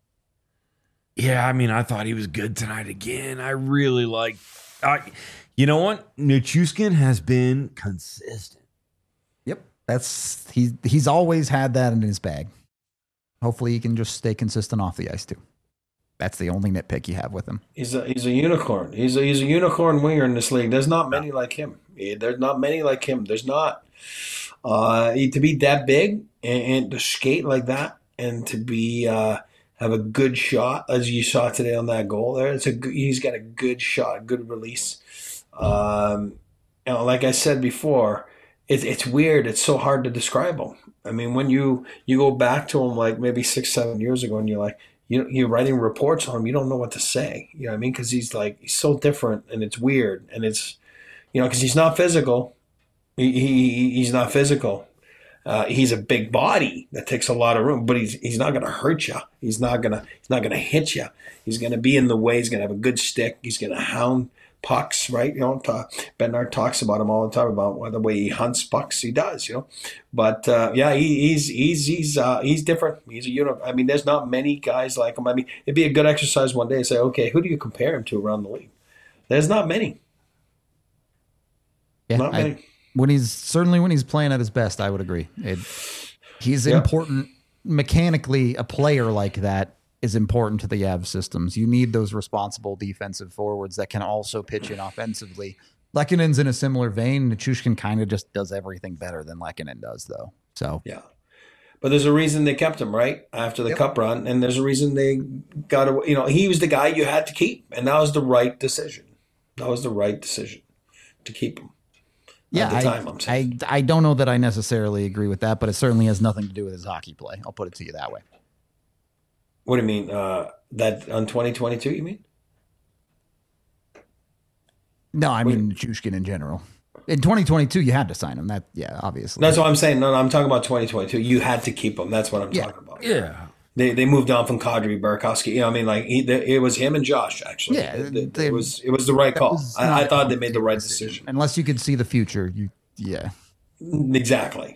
Yeah, I mean, I thought he was good tonight again. I really like. I, you know what? Nichushkin has been consistent. Yep. That's he he's always had that in his bag. Hopefully he can just stay consistent off the ice too. That's the only nitpick you have with him. He's a he's a unicorn. He's a he's a unicorn winger in this league. There's not many like him. Yeah, There's not many like him. There's not. Uh, he- to be that big and, and to skate like that and to be uh, have a good shot as you saw today on that goal there. It's a good, he's got a good shot, good release. Um, you know, like I said before, it's it's weird. It's so hard to describe him. I mean, when you you go back to him like maybe six seven years ago, and you're like. You, you're writing reports on him. You don't know what to say. You know what I mean? Because he's like he's so different, and it's weird, and it's you know because he's not physical. He, he he's not physical. Uh, he's a big body that takes a lot of room, but he's he's not going to hurt you. He's not gonna he's not gonna hit you. He's going to be in the way. He's going to have a good stick. He's going to hound pucks, right? You know, ta- Bednar talks about him all the time about the way he hunts pucks. He does, you know. But uh, yeah, he, he's he's he's uh, he's different. He's a unit. I mean, there's not many guys like him. I mean, it'd be a good exercise one day to say, okay, who do you compare him to around the league? There's not many. Yeah, Not I- many. when he's certainly when he's playing at his best, I would agree. It, he's Yeah. important mechanically. A player like that is important to the Avs systems. You need those responsible defensive forwards that can also pitch in offensively. Lekkonen's in a similar vein. Nichushkin kind of just does everything better than Lekkonen does, though. So Yeah. But there's a reason they kept him, right? After the Yep. cup run. And there's a reason they got away. You know, he was the guy you had to keep. And that was the right decision. That was the right decision to keep him. yeah, At the I, time, I'm saying. I I don't know that I necessarily agree with that, but it certainly has nothing to do with his hockey play. I'll put it to you that way. What do you mean? Uh, that on twenty twenty-two, you mean? No, I mean Nichushkin in general. In twenty twenty-two, you had to sign him. That yeah, obviously. That's what I'm saying. No, no, I'm talking about twenty twenty-two. You had to keep him. That's what I'm Yeah. talking about. Yeah. They they moved on from Kadri, Burakovsky. You know, what I mean, like he, they, it was him and Josh. Actually, Yeah, it, it- they- it was it was the right That call. was I, not I a thought they made the complicated right decision. Unless you could see the future, you yeah. Exactly.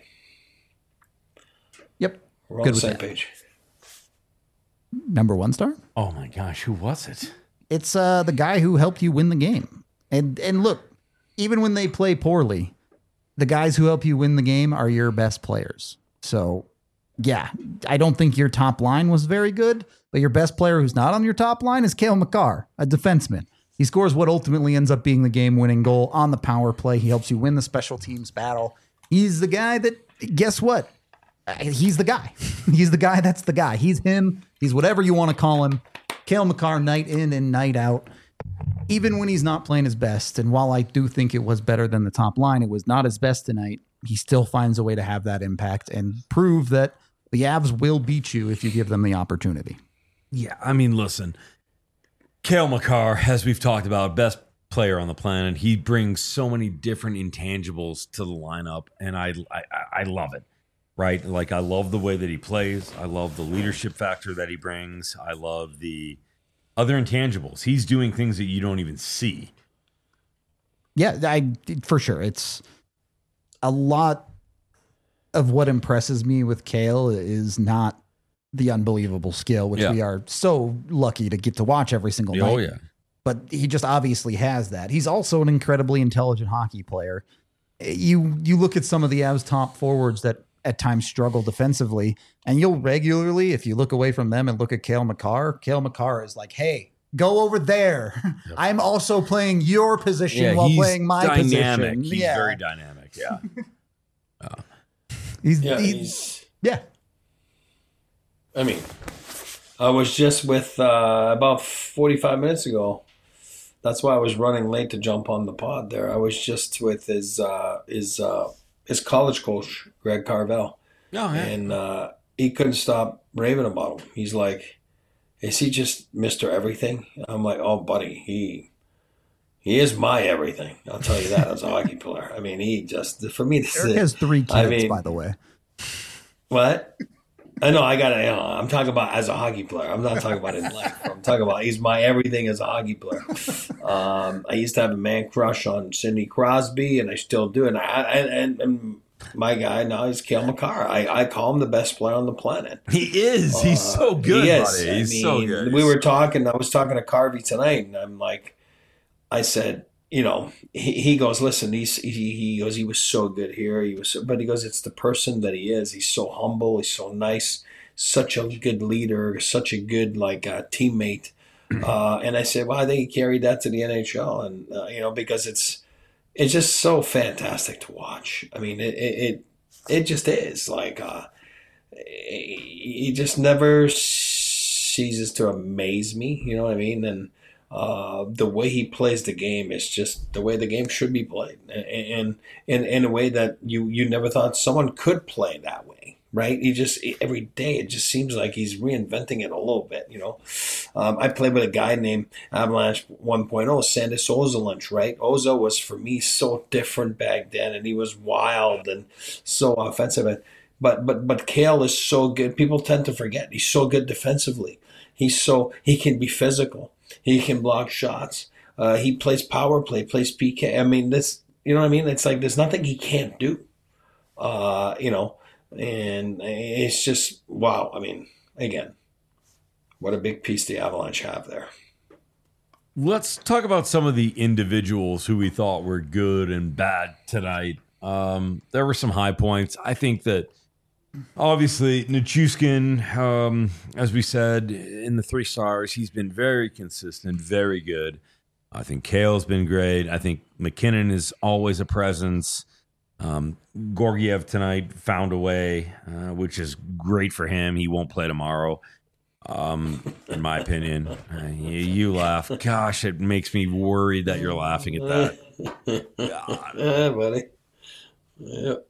Yep. We're on Good the with same that. page. Number one star? Oh my gosh, who was it? It's uh the guy who helped you win the game. And and look, even when they play poorly, the guys who help you win the game are your best players. So yeah, I don't think your top line was very good, but your best player who's not on your top line is Cale Makar, a defenseman. He scores what ultimately ends up being the game-winning goal on the power play. He helps you win the special teams battle. He's the guy that, guess what? Uh, He's the guy. He's the guy that's the guy. He's him. He's whatever you want to call him. Cale Makar, night in and night out. Even when he's not playing his best, and while I do think it was better than the top line, it was not his best tonight. He still finds a way to have that impact and prove that the Avs will beat you if you give them the opportunity. Yeah, I mean, listen, Cale Makar, as we've talked about, best player on the planet. He brings so many different intangibles to the lineup, and I, I, I love it. Right, like I love the way that he plays. I love the leadership factor that he brings. I love the other intangibles. He's doing things that you don't even see. Yeah, I for sure. It's a lot of what impresses me with Cale is not the unbelievable skill, which Yeah. we are so lucky to get to watch every single night. Oh yeah. But he just obviously has that. He's also an incredibly intelligent hockey player. You you look at some of the Avs top forwards that at times struggle defensively, and you'll regularly, if you look away from them and look at Cale Makar, Cale Makar is like, hey, go over there. I'm also playing your position Yeah, while he's playing my dynamic. position. He's yeah. very dynamic. Yeah. He's, Yeah, he's, he's. yeah. I mean, I was just with uh, about forty-five minutes ago. That's why I was running late to jump on the pod there. I was just with his uh, his uh, his college coach, Greg Carvel, Oh, yeah. and uh, he couldn't stop raving about him. He's like, "Is he just Mister Everything?" I'm like, "Oh, buddy, he he is my everything." I'll tell you that as a hockey player. I mean, he just for me. This Eric is has three kids, I mean- by the way. what. I know I got to, you know, I'm talking about as a hockey player. I'm not talking about in life. I'm talking about he's my everything as a hockey player. Um, I used to have a man crush on Sidney Crosby, and I still do. And, I, and, and my guy now is Cale Makar. I, I call him the best player on the planet. He is. He's Uh, so good, he is. buddy. I He's mean, so good. We were talking. I was talking to Carvey tonight, and I'm like, I said, you know, he, he goes, listen, he's, he, he goes, he was so good here. He was, so, but he goes, it's the person that he is. He's so humble. He's so nice. Such a good leader. Such a good like uh, teammate. Uh, and I said, well, I think he carried that to the N H L, and uh, you know, because it's it's just so fantastic to watch. I mean, it it it, it just is like uh, he just never ceases to amaze me. You know what I mean? And uh, the way he plays the game is just the way the game should be played, and in in a way that you you never thought someone could play that way. Right? He just every day it just seems like he's reinventing it a little bit. You know, um, I played with a guy named Avalanche one point oh, Sandis Ozolinsh. Right? Ozo was for me so different back then, and he was wild and so offensive. But but but Cale is so good. People tend to forget he's so good defensively. He's so he can be physical. He can block shots. Uh, he plays power play, plays P K. I mean, this. You know what I mean? It's like there's nothing he can't do. Uh, you know. And it's just, wow. I mean, again, what a big piece the Avalanche have there. Let's talk about some of the individuals who we thought were good and bad tonight. Um, there were some high points. I think that obviously Nichushkin, um, as we said, in the three stars, he's been very consistent, very good. I think Cale's been great. I think McKinnon is always a presence. Um, Gorgiev tonight found a way, uh, which is great for him. He won't play tomorrow, um, in my opinion. Uh, you, you laugh. Gosh, it makes me worried that you're laughing at that. God. Yeah, buddy. Yep.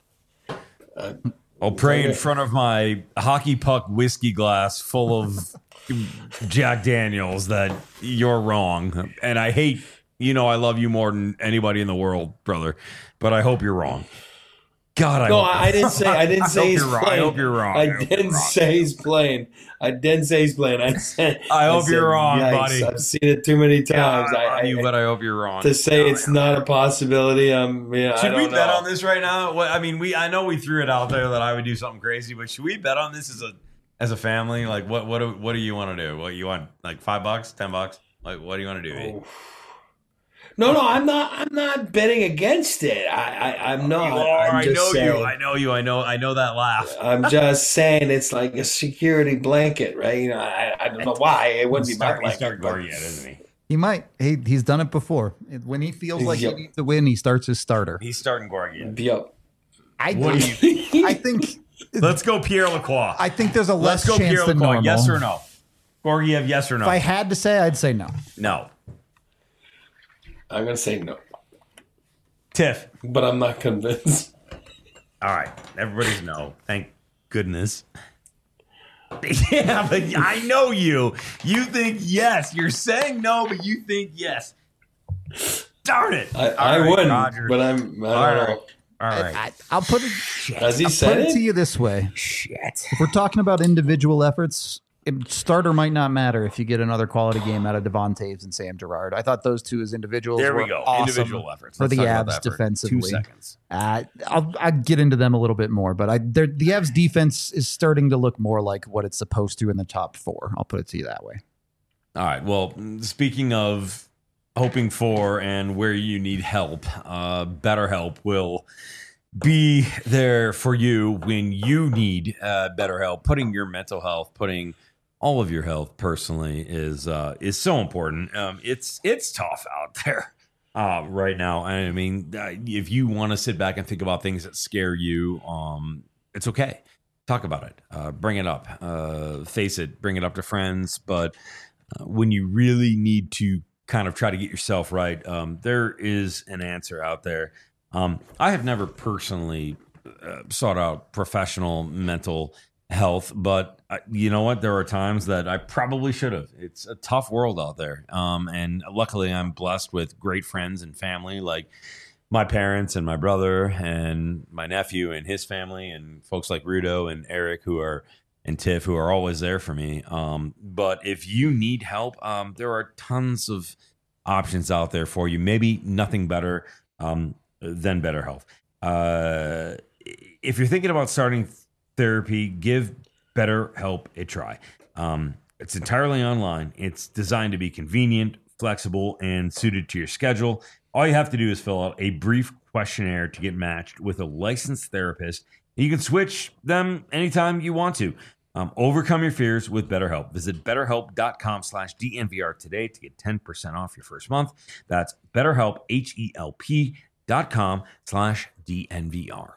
Uh, I'll pray in front of my hockey puck whiskey glass full of Jack Daniels that you're wrong. And I hate, you know, I love you more than anybody in the world, brother. But I hope you're wrong. God, I no, hope I, I didn't say. I didn't I say hope he's you're wrong. playing. I hope you're wrong. I I hope didn't you're wrong. say he's playing. I didn't say he's playing. I said. I hope said, you're wrong, yikes, buddy. I've seen it too many times. God, I, I, you, but I hope you're wrong. to say God, it's not a possibility. Um, yeah, I Should we don't bet know. on this right now? What, I mean, we I know we threw it out there that I would do something crazy, but should we bet on this as a as a family? Like, what what do, what do you want to do? What you want? Like five bucks, ten bucks? Like, what do you want to do? E? Oh. No, no, I'm not. I'm not betting against it. I, I I'm not. You are. I'm I just know saying, you. I know you. I know. I know that laugh. I'm just saying it's like a security blanket, right? You know, I, I don't know why it wouldn't be my Start, he's blanket. starting but- yet, isn't he? He might. He, he's done it before. When he feels like Yep. he needs to win, he starts his starter. He's starting Gorgiev. Yep. I What do think, you I think. Let's go Pierre Lacroix. I think there's a less Let's go chance Pierre than Lacroix. normal. Yes or no? Gorgiev, yes or no? If I had to say, I'd say no. No. I'm gonna say no, Tiff. but I'm not convinced. All right. Everybody's no. Thank goodness. Yeah, but I know you. You think yes. You're saying no, but you think yes. Darn it. I, All I right, wouldn't, Roger. but I'm. I don't All right. know. All right. I, I'll put it. Has he I'll said put it it? to you this way: Shit. if we're talking about individual efforts, it, starter might not matter if you get another quality game out of Devon Taves and Sam Girard. I thought those two as individuals There were we go. awesome Individual efforts. for Let's the talk about Avs that for defensively. Two seconds. Uh, I'll, I'll get into them a little bit more, but I the Avs defense is starting to look more like what it's supposed to in the top four. I'll put it to you that way. All right. Well, speaking of hoping for and where you need help, uh, BetterHelp will be there for you when you need uh, better help. Putting your mental health, putting all of your health personally is uh, is so important. Um, it's it's tough out there uh, right now. I mean, uh, if you want to sit back and think about things that scare you, um, it's okay. Talk about it. Uh, bring it up. Uh, face it. Bring it up to friends. But uh, when you really need to kind of try to get yourself right, um, there is an answer out there. Um, I have never personally uh, sought out professional mental health, but uh, you know what? There are times that I probably should have. It's a tough world out there. Um, and luckily I'm blessed with great friends and family like my parents and my brother and my nephew and his family and folks like Rudo and Eric who are and Tiff who are always there for me. Um, but if you need help, um, there are tons of options out there for you. Maybe nothing better um, than BetterHelp. Uh, if you're thinking about starting therapy, give BetterHelp a try. Um, it's entirely online. It's designed to be convenient, flexible, and suited to your schedule. All you have to do is fill out a brief questionnaire to get matched with a licensed therapist. You can switch them anytime you want to. Um, overcome your fears with BetterHelp. Visit betterhelp.com slash DNVR today to get ten percent off your first month. That's BetterHelp, H-E-L-P dot com slash DNVR.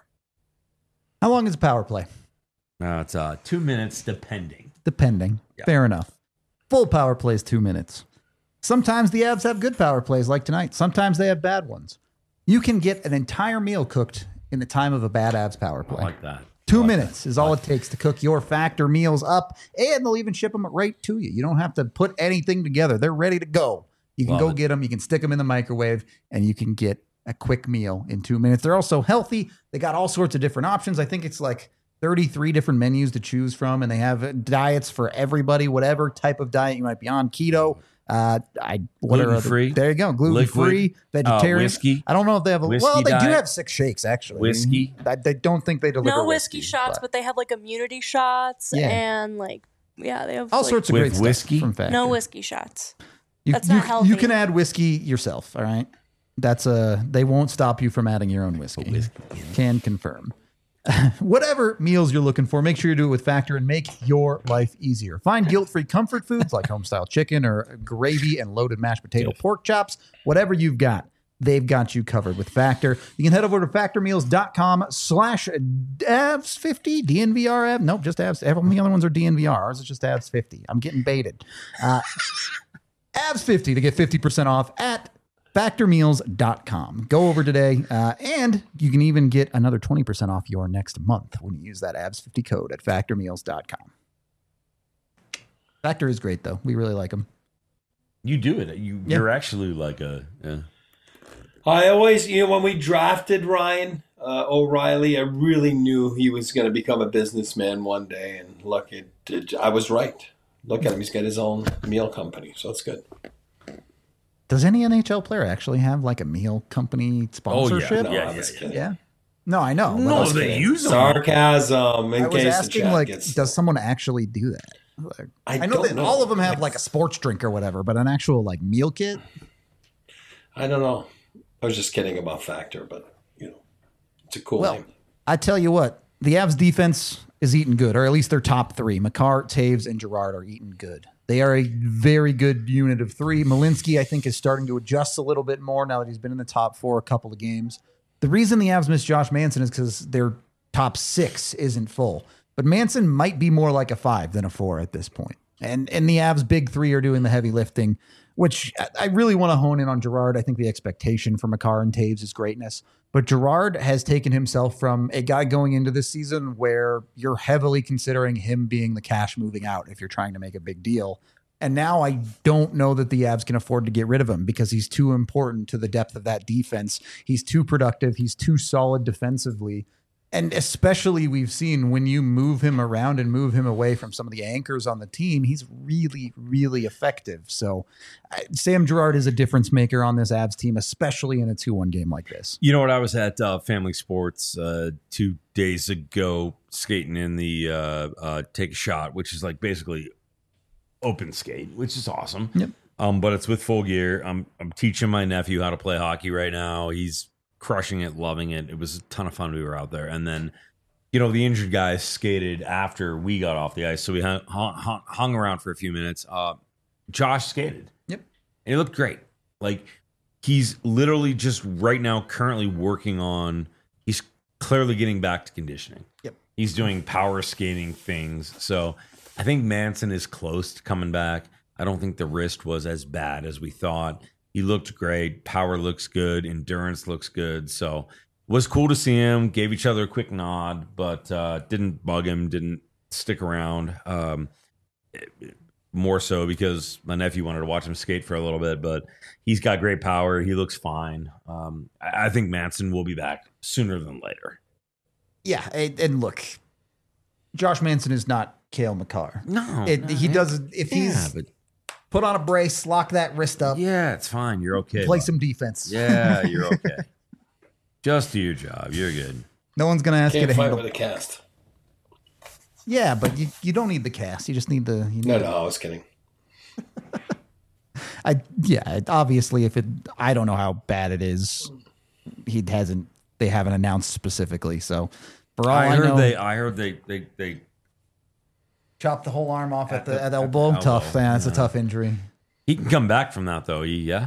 How long is a power play? Uh, it's uh, two minutes depending. Depending. Yeah. Fair enough. Full power plays two minutes. Sometimes the Avs have good power plays like tonight. Sometimes they have bad ones. You can get an entire meal cooked in the time of a bad Avs power play. I like that. Two like minutes that. is all it takes to cook your Factor meals up, and they'll even ship them right to you. You don't have to put anything together. They're ready to go. You can Love go it. get them. You can stick them in the microwave, and you can get a quick meal in two minutes. They're also healthy. They got all sorts of different options. I think it's like thirty-three different menus to choose from, and they have diets for everybody, whatever type of diet you might be on. Keto, uh, I what are other- Gluten-free. There you go, gluten free, Liquid, vegetarian. uh, whiskey. I don't know if they have a Whiskey well. They do diet. have six shakes actually. Whiskey. I, I don't think they deliver No whiskey, shots, but but they have like immunity shots Yeah. and like yeah, they have all like, sorts of With great whiskey? stuff from Factor. no whiskey shots. You, That's you, not healthy. You can add whiskey yourself. All right, that's a. They won't stop you from adding your own whiskey. whiskey. Can confirm. Whatever meals you're looking for, make sure you do it with Factor and make your life easier. Find guilt-free comfort foods like home-style chicken or gravy and loaded mashed potato pork chops. Whatever you've got, they've got you covered with Factor. You can head over to factormeals.com slash avs fifty, D N V R. Nope, just avs. All the other ones are D N V R. Ours is just avs fifty. I'm getting baited. Uh, avs fifty to get fifty percent off at factor meals dot com. Go over today, uh, and you can even get another twenty percent off your next month when you use that A V S fifty code at factor meals dot com. Factor is great, though. We really like them. You do it. You, Yeah. You're actually like a... Yeah. I always, you know, when we drafted Ryan uh, O'Reilly, I really knew he was going to become a businessman one day. And look, it, it, I was right. Look at him. He's got his own meal company. So it's good. Does any N H L player actually have like a meal company sponsorship? No, Yeah, I yeah, was yeah. kidding. Yeah. No, I know. but I No, was, they use them. Sarcasm in I was case the asking, chat like, gets... does someone actually do that? Like, I I know don't that know. all of them have like a sports drink or whatever, but an actual like meal kit. I don't know. I was just kidding about Factor, but, you know, it's a cool Well, name. I tell you what, the Avs defense is eating good, or at least their top three. Makar, Taves, and Girard are eating good. They are a very good unit of three. Malinsky, I think, is starting to adjust a little bit more now that he's been in the top four a couple of games. The reason the Avs miss Josh Manson is because their top six isn't full. But Manson might be more like a five than a four at this point. And and the Avs' big three are doing the heavy lifting, which I- I really want to hone in on Girard. I think the expectation for Makar and Taves is greatness. But Girard has taken himself from a guy going into this season where you're heavily considering him being the cash moving out if you're trying to make a big deal. And now I don't know that the Avs can afford to get rid of him because he's too important to the depth of that defense. He's too productive. He's too solid defensively. And especially we've seen when you move him around and move him away from some of the anchors on the team, he's really, really effective. So uh, Sam Girard is a difference maker on this Avs team, especially in a two one game like this. You know what? I was at uh, Family Sports uh, two days ago skating in the uh, uh, Take a Shot, which is like basically open skate, which is awesome. Yep. Um, but it's with full gear. I'm I'm teaching my nephew how to play hockey right now. He's crushing it, loving it. It was a ton of fun. We were out there. And then, you know, the injured guys skated after we got off the ice. So we hung, hung, hung around for a few minutes. Uh, Josh skated. Yep. And he looked great. Like, he's literally just right now currently working on, he's clearly getting back to conditioning. Yep. He's doing power skating things. So I think Manson is close to coming back. I don't think the wrist was as bad as we thought. He looked great. Power looks good. Endurance looks good. So it was cool to see him. Gave each other a quick nod, but uh, didn't bug him, didn't stick around. Um, more so because my nephew wanted to watch him skate for a little bit, but he's got great power. He looks fine. Um, I, I think Manson will be back sooner than later. Yeah. And, and look, Josh Manson is not Cale Makar. No. It, no, he yeah. does, if Yeah, he's but put on a brace, lock that wrist up, yeah, it's fine. You're okay. play bud. some defense. Yeah, you're okay. Just do your job. You're good. No one's going to ask you Can't to fight handle. with a cast. Yeah, but you, you don't need the cast. You just need the. You need No, the- no, I was kidding. I yeah, it- obviously if it I don't know how bad it is. He hasn't they haven't announced specifically. So for all I, I heard know, they. I heard they. They. They. chopped the whole arm off at, At the, the- at at the elbow. elbow, Tough. Yeah, it's a yeah. tough injury. He can come back from that though. He, yeah.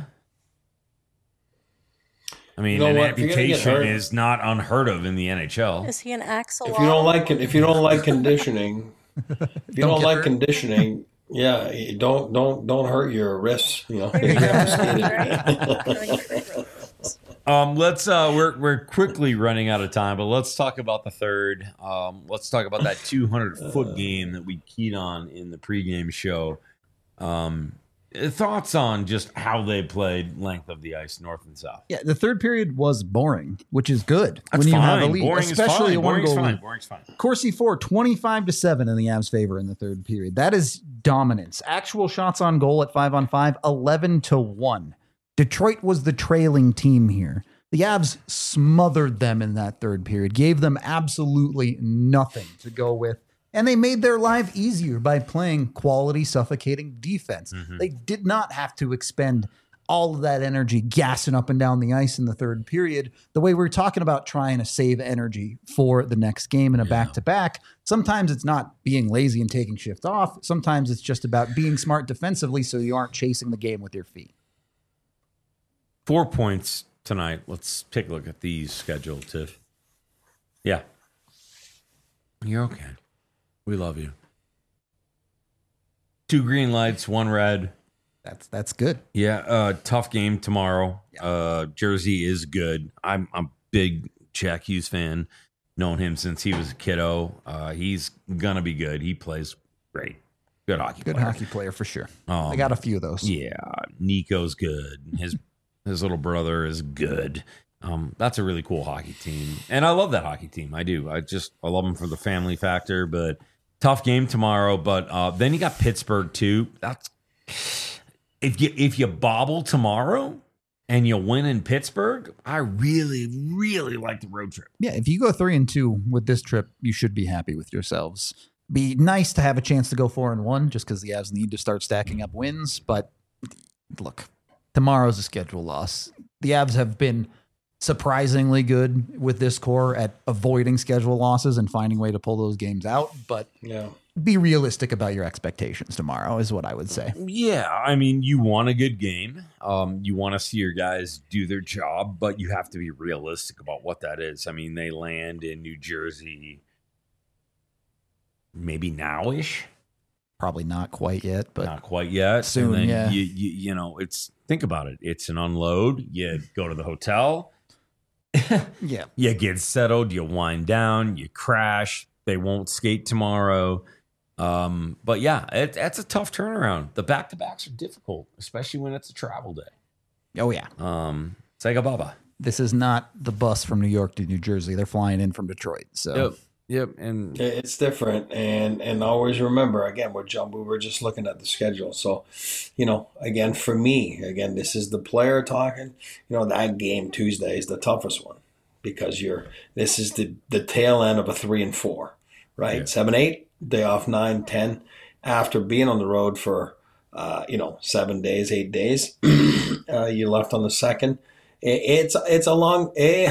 I mean, You know an what? If you're gonna get amputation hurt- is not unheard of in the N H L. Is he an axolotl? If you don't like it, if you don't like conditioning, if you Don't don't, get like hurt. conditioning, yeah, you don't don't don't hurt your wrists. You know, There you you go. have to skate Right. it. Um, let's. Uh, we're we're quickly running out of time, but let's talk about the third. Um, let's talk about that two hundred foot game that we keyed on in the pregame show. Um, thoughts on just how they played length of the ice, north and south. Yeah, the third period was boring, which is good That's when you fine. have a lead, Boring especially is a fine. one Boring's goal fine. lead. Boring's fine. Corsi four, twenty-five to seven in the Avs' favor in the third period. That is dominance. Actual shots on goal at five on five, eleven to one. Detroit was the trailing team here. The Avs smothered them in that third period, gave them absolutely nothing to go with, and they made their life easier by playing quality, suffocating defense. Mhm. They did not have to expend all of that energy gassing up and down the ice in the third period, the way we we're talking about trying to save energy for the next game in a back-to-back. Sometimes it's not being lazy and taking shift off. Sometimes it's just about being smart defensively so you aren't chasing the game with your feet. Four points tonight. Let's take a look at these scheduled, Tiff. Yeah. You're okay. We love you. Two green lights, one red. That's that's good. Yeah, uh, tough game tomorrow. Uh, Jersey is good. I'm I'm a big Jack Hughes fan. Known him since he was a kiddo. Uh, he's gonna be good. He plays great. Good hockey Good player. hockey player for sure. Um, I got a few of those. Yeah, Nico's good. His his little brother is good. Um, that's a really cool hockey team, and I love that hockey team. I do. I just I love them for the family factor. But tough game tomorrow. But uh, then you got Pittsburgh too. That's if you if you bobble tomorrow and you win in Pittsburgh, I really really like the road trip. Yeah, if you go three and two with this trip, you should be happy with yourselves. Be nice to have a chance to go four and one, just because the Avs need to start stacking up wins. But look, tomorrow's a schedule loss. The Avs have been surprisingly good with this core at avoiding schedule losses and finding a way to pull those games out. But Yeah. be realistic about your expectations tomorrow, is what I would say. Yeah, I mean, you want a good game. Um, you want to see your guys do their job, but you have to be realistic about what that is. I mean, they land in New Jersey maybe now-ish, Probably not quite yet, but not quite yet. Soon, and then yeah. You, you, you know, it's think about it. It's an unload. You go to the hotel. yeah. You get settled. You wind down. You crash. They won't skate tomorrow. Um, but yeah, it, that's a tough turnaround. The back-to-backs are difficult, especially when it's a travel day. Oh, yeah. Um, Sega Baba. this is not the bus from New York to New Jersey. They're flying in from Detroit. So Yep. Yep. And It's different, and and always remember again, we're jump. We were just looking at the schedule, so you know, again for me, again, this is the player talking. You know, that game Tuesday is the toughest one because you're. This is the the tail end of a three and four, right? Yeah. Seven, eight, day off nine, ten, after being on the road for uh, you know seven days, eight days. uh, you left on the second. It, it's it's a long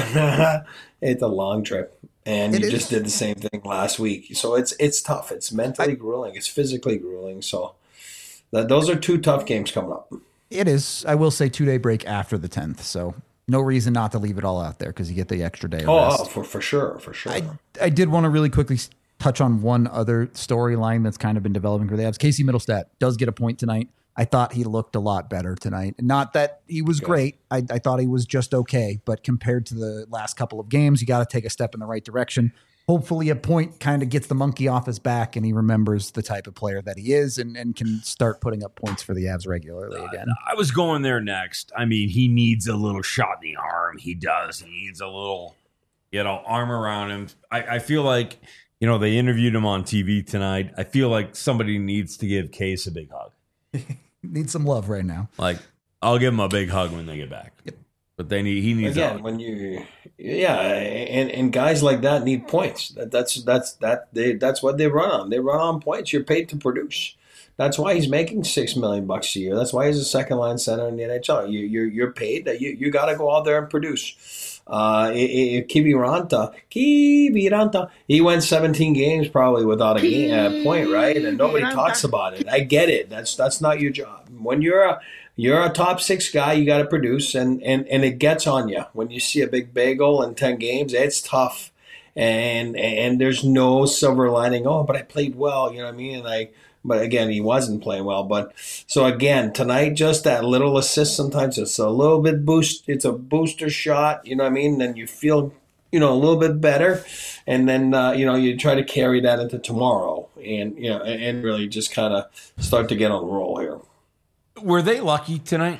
it's a long trip. And It you is. just did the same thing last week. So it's it's tough. It's mentally grueling. It's physically grueling. So that those are two tough games coming up. it is. I will say two day break after the tenth. So no reason not to leave it all out there because you get the extra day of Oh, rest. oh, for for sure, for sure. I, I did want to really quickly s- touch on one other storyline that's kind of been developing for the Avs. Casey Middlestat does get a point tonight. I thought he looked a lot better tonight. Not that he was great. I, I thought he was just okay. But compared to the last couple of games, you got to take a step in the right direction. Hopefully a point kind of gets the monkey off his back and he remembers the type of player that he is and, and can start putting up points for the Avs regularly again. I was going there next. I mean, he needs a little shot in the arm. He does. He needs a little, you know, arm around him. I, I feel like, you know, they interviewed him on T V tonight. I feel like somebody needs to give Case a big hug. Needs some love right now. Like, I'll give him a big hug when they get back. Yep. But they need, he needs Again, a when you, yeah, and, and guys like that need points. That, that's that's that they that's what they run on. They run on points. You're paid to produce. That's why he's making six million bucks a year. That's why he's a second line center in the N H L. You you're you're paid. That you you got to go out there and produce. Uh, Kiviranta, Kiviranta, he went seventeen games probably without a game, uh, point, right? And nobody talks about it. I get it. That's that's not your job. When you're a you're a top six guy, you got to produce, and, and and it gets on you when you see a big bagel in ten games. It's tough, and and there's no silver lining. Oh, but I played well. You know what I mean? And I. But again, he wasn't playing well. But so again, tonight, just that little assist. Sometimes it's a little bit boost. It's a booster shot. You know what I mean? Then you feel, you know, a little bit better, and then uh, you know you try to carry that into tomorrow, and you know, and, and really just kind of start to get on the roll here. Were they lucky tonight?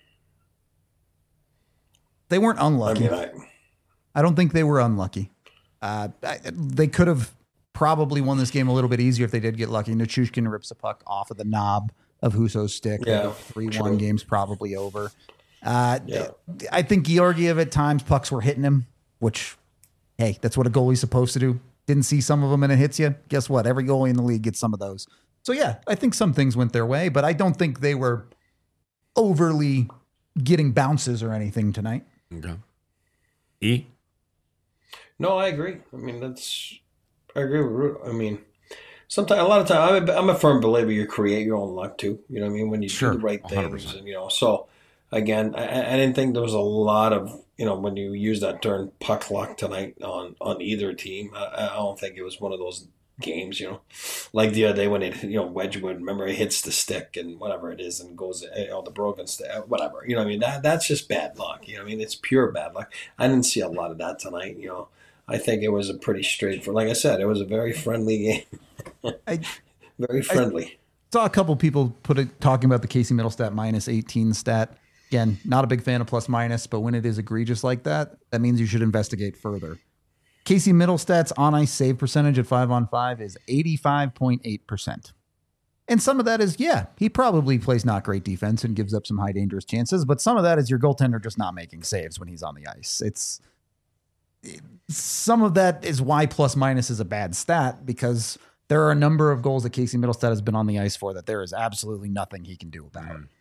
They weren't I unlucky. mean, I, I don't think they were unlucky. Uh, I, they could have probably won this game a little bit easier if they did get lucky. Nichushkin rips a puck off of the knob of Husso's stick. Yeah, three one true. game's probably over. Uh, Yeah. I think Georgiev at times pucks were hitting him, which, hey, that's what a goalie's supposed to do. Didn't see some of them and it hits you. Guess what? Every goalie in the league gets some of those. So yeah, I think some things went their way, but I don't think they were overly getting bounces or anything tonight. Okay. E? no, I agree. I mean, that's I agree with Ruth. I mean, sometimes a lot of time I'm a, I'm a firm believer you create your own luck too. You know what I mean? When you Sure, do the right one hundred things, percent. and you know. So again, I, I didn't think there was a lot of you know when you use that term puck luck tonight on on either team. I, I don't think it was one of those games, you know, like the other day when it, you know, Wedgwood, remember, it hits the stick and whatever it is and goes, you know, the broken stick, whatever, you know what I mean? That That's just bad luck, you know what I mean? It's pure bad luck. I didn't see a lot of that tonight, you know. I think it was a pretty straightforward, like I said, it was a very friendly game. I Very friendly. saw a couple people put it talking about the Casey Middlestat minus eighteen stat. Again, not a big fan of plus minus, but when it is egregious like that, that means you should investigate further. Casey Middlestat's on ice save percentage at five on five is eighty-five point eight percent. And some of that is, yeah, he probably plays not great defense and gives up some high dangerous chances, but some of that is your goaltender just not making saves when he's on the ice. It's some of that is why plus minus is a bad stat, because there are a number of goals that Casey Middlestat has been on the ice for that there is absolutely nothing he can do about. Mm.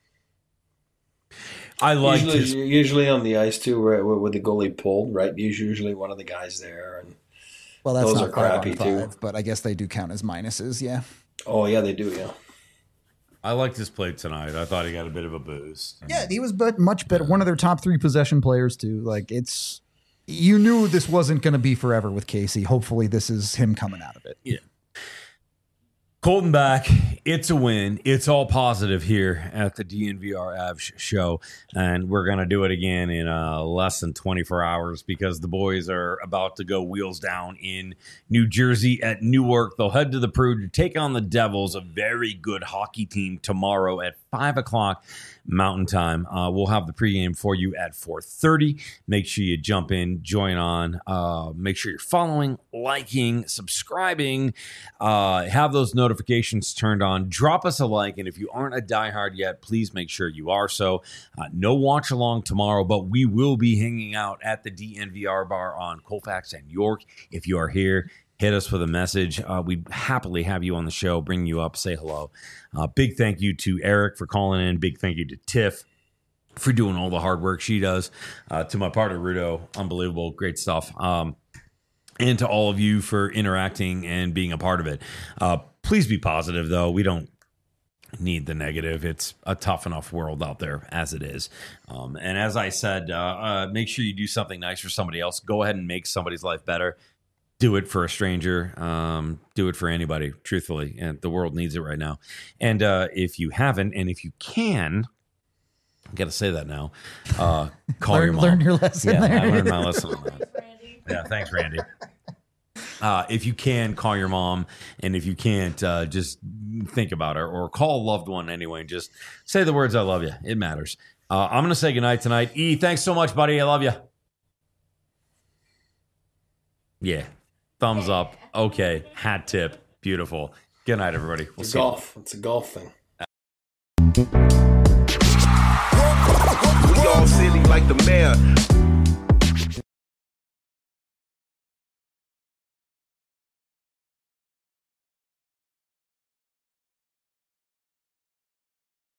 I like usually, his. usually on the ice too, where, where the goalie pulled, right? There's usually one of the guys there. And Well, that's Those not are five on crappy, five, too. but I guess they do count as minuses, yeah. oh, yeah, they do, yeah. I liked his play tonight. I thought he got a bit of a boost. Yeah, he was but much better. One of their top three possession players too. Like it's, you knew this wasn't going to be forever with Casey. Hopefully, this is him coming out of it. Yeah. Colton back. It's a win. It's all positive here at the D N V R Avs show. And we're going to do it again in uh, less than twenty-four hours because the boys are about to go wheels down in New Jersey at Newark. They'll head to the Prue to take on the Devils, a very good hockey team, tomorrow at five o'clock Mountain Time. Uh, we'll have the pregame for you at four thirty. Make sure you jump in, join on. Uh, make sure you're following, liking, subscribing. Uh, have those notifications turned on. Drop us a like, and if you aren't a diehard yet, please make sure you are so. Uh, no watch along tomorrow, but we will be hanging out at the D N V R bar on Colfax and York. If you are here, hit us with a message. Uh, we'd happily have you on the show, bring you up, say hello. Uh, big thank you to Eric for calling in. Big thank you to Tiff for doing all the hard work she does. Uh, to my partner, Rudo, unbelievable, great stuff. Um, and to all of you for interacting and being a part of it. Uh, please be positive, though. We don't need the negative. It's a tough enough world out there as it is. Um, and as I said, uh, uh, make sure you do something nice for somebody else. Go ahead and make somebody's life better. Do it for a stranger. Um, do it for anybody, truthfully. And the world needs it right now. And uh, if you haven't, and if you can, I got to say that now, uh, call learn, your mom. Learn your lesson yeah, there. I learned my lesson on that. Yeah, thanks, Randy. Uh, if you can, call your mom. And if you can't, uh, just think about her or call a loved one anyway. And just say the words, I love you. It matters. Uh, I'm going to say goodnight tonight. E, thanks so much, buddy. I love you. Yeah. Thumbs up. Okay. Hat tip. Beautiful. Good night, everybody. We'll It's see golf. It's a golf thing. We all silly like the mayor.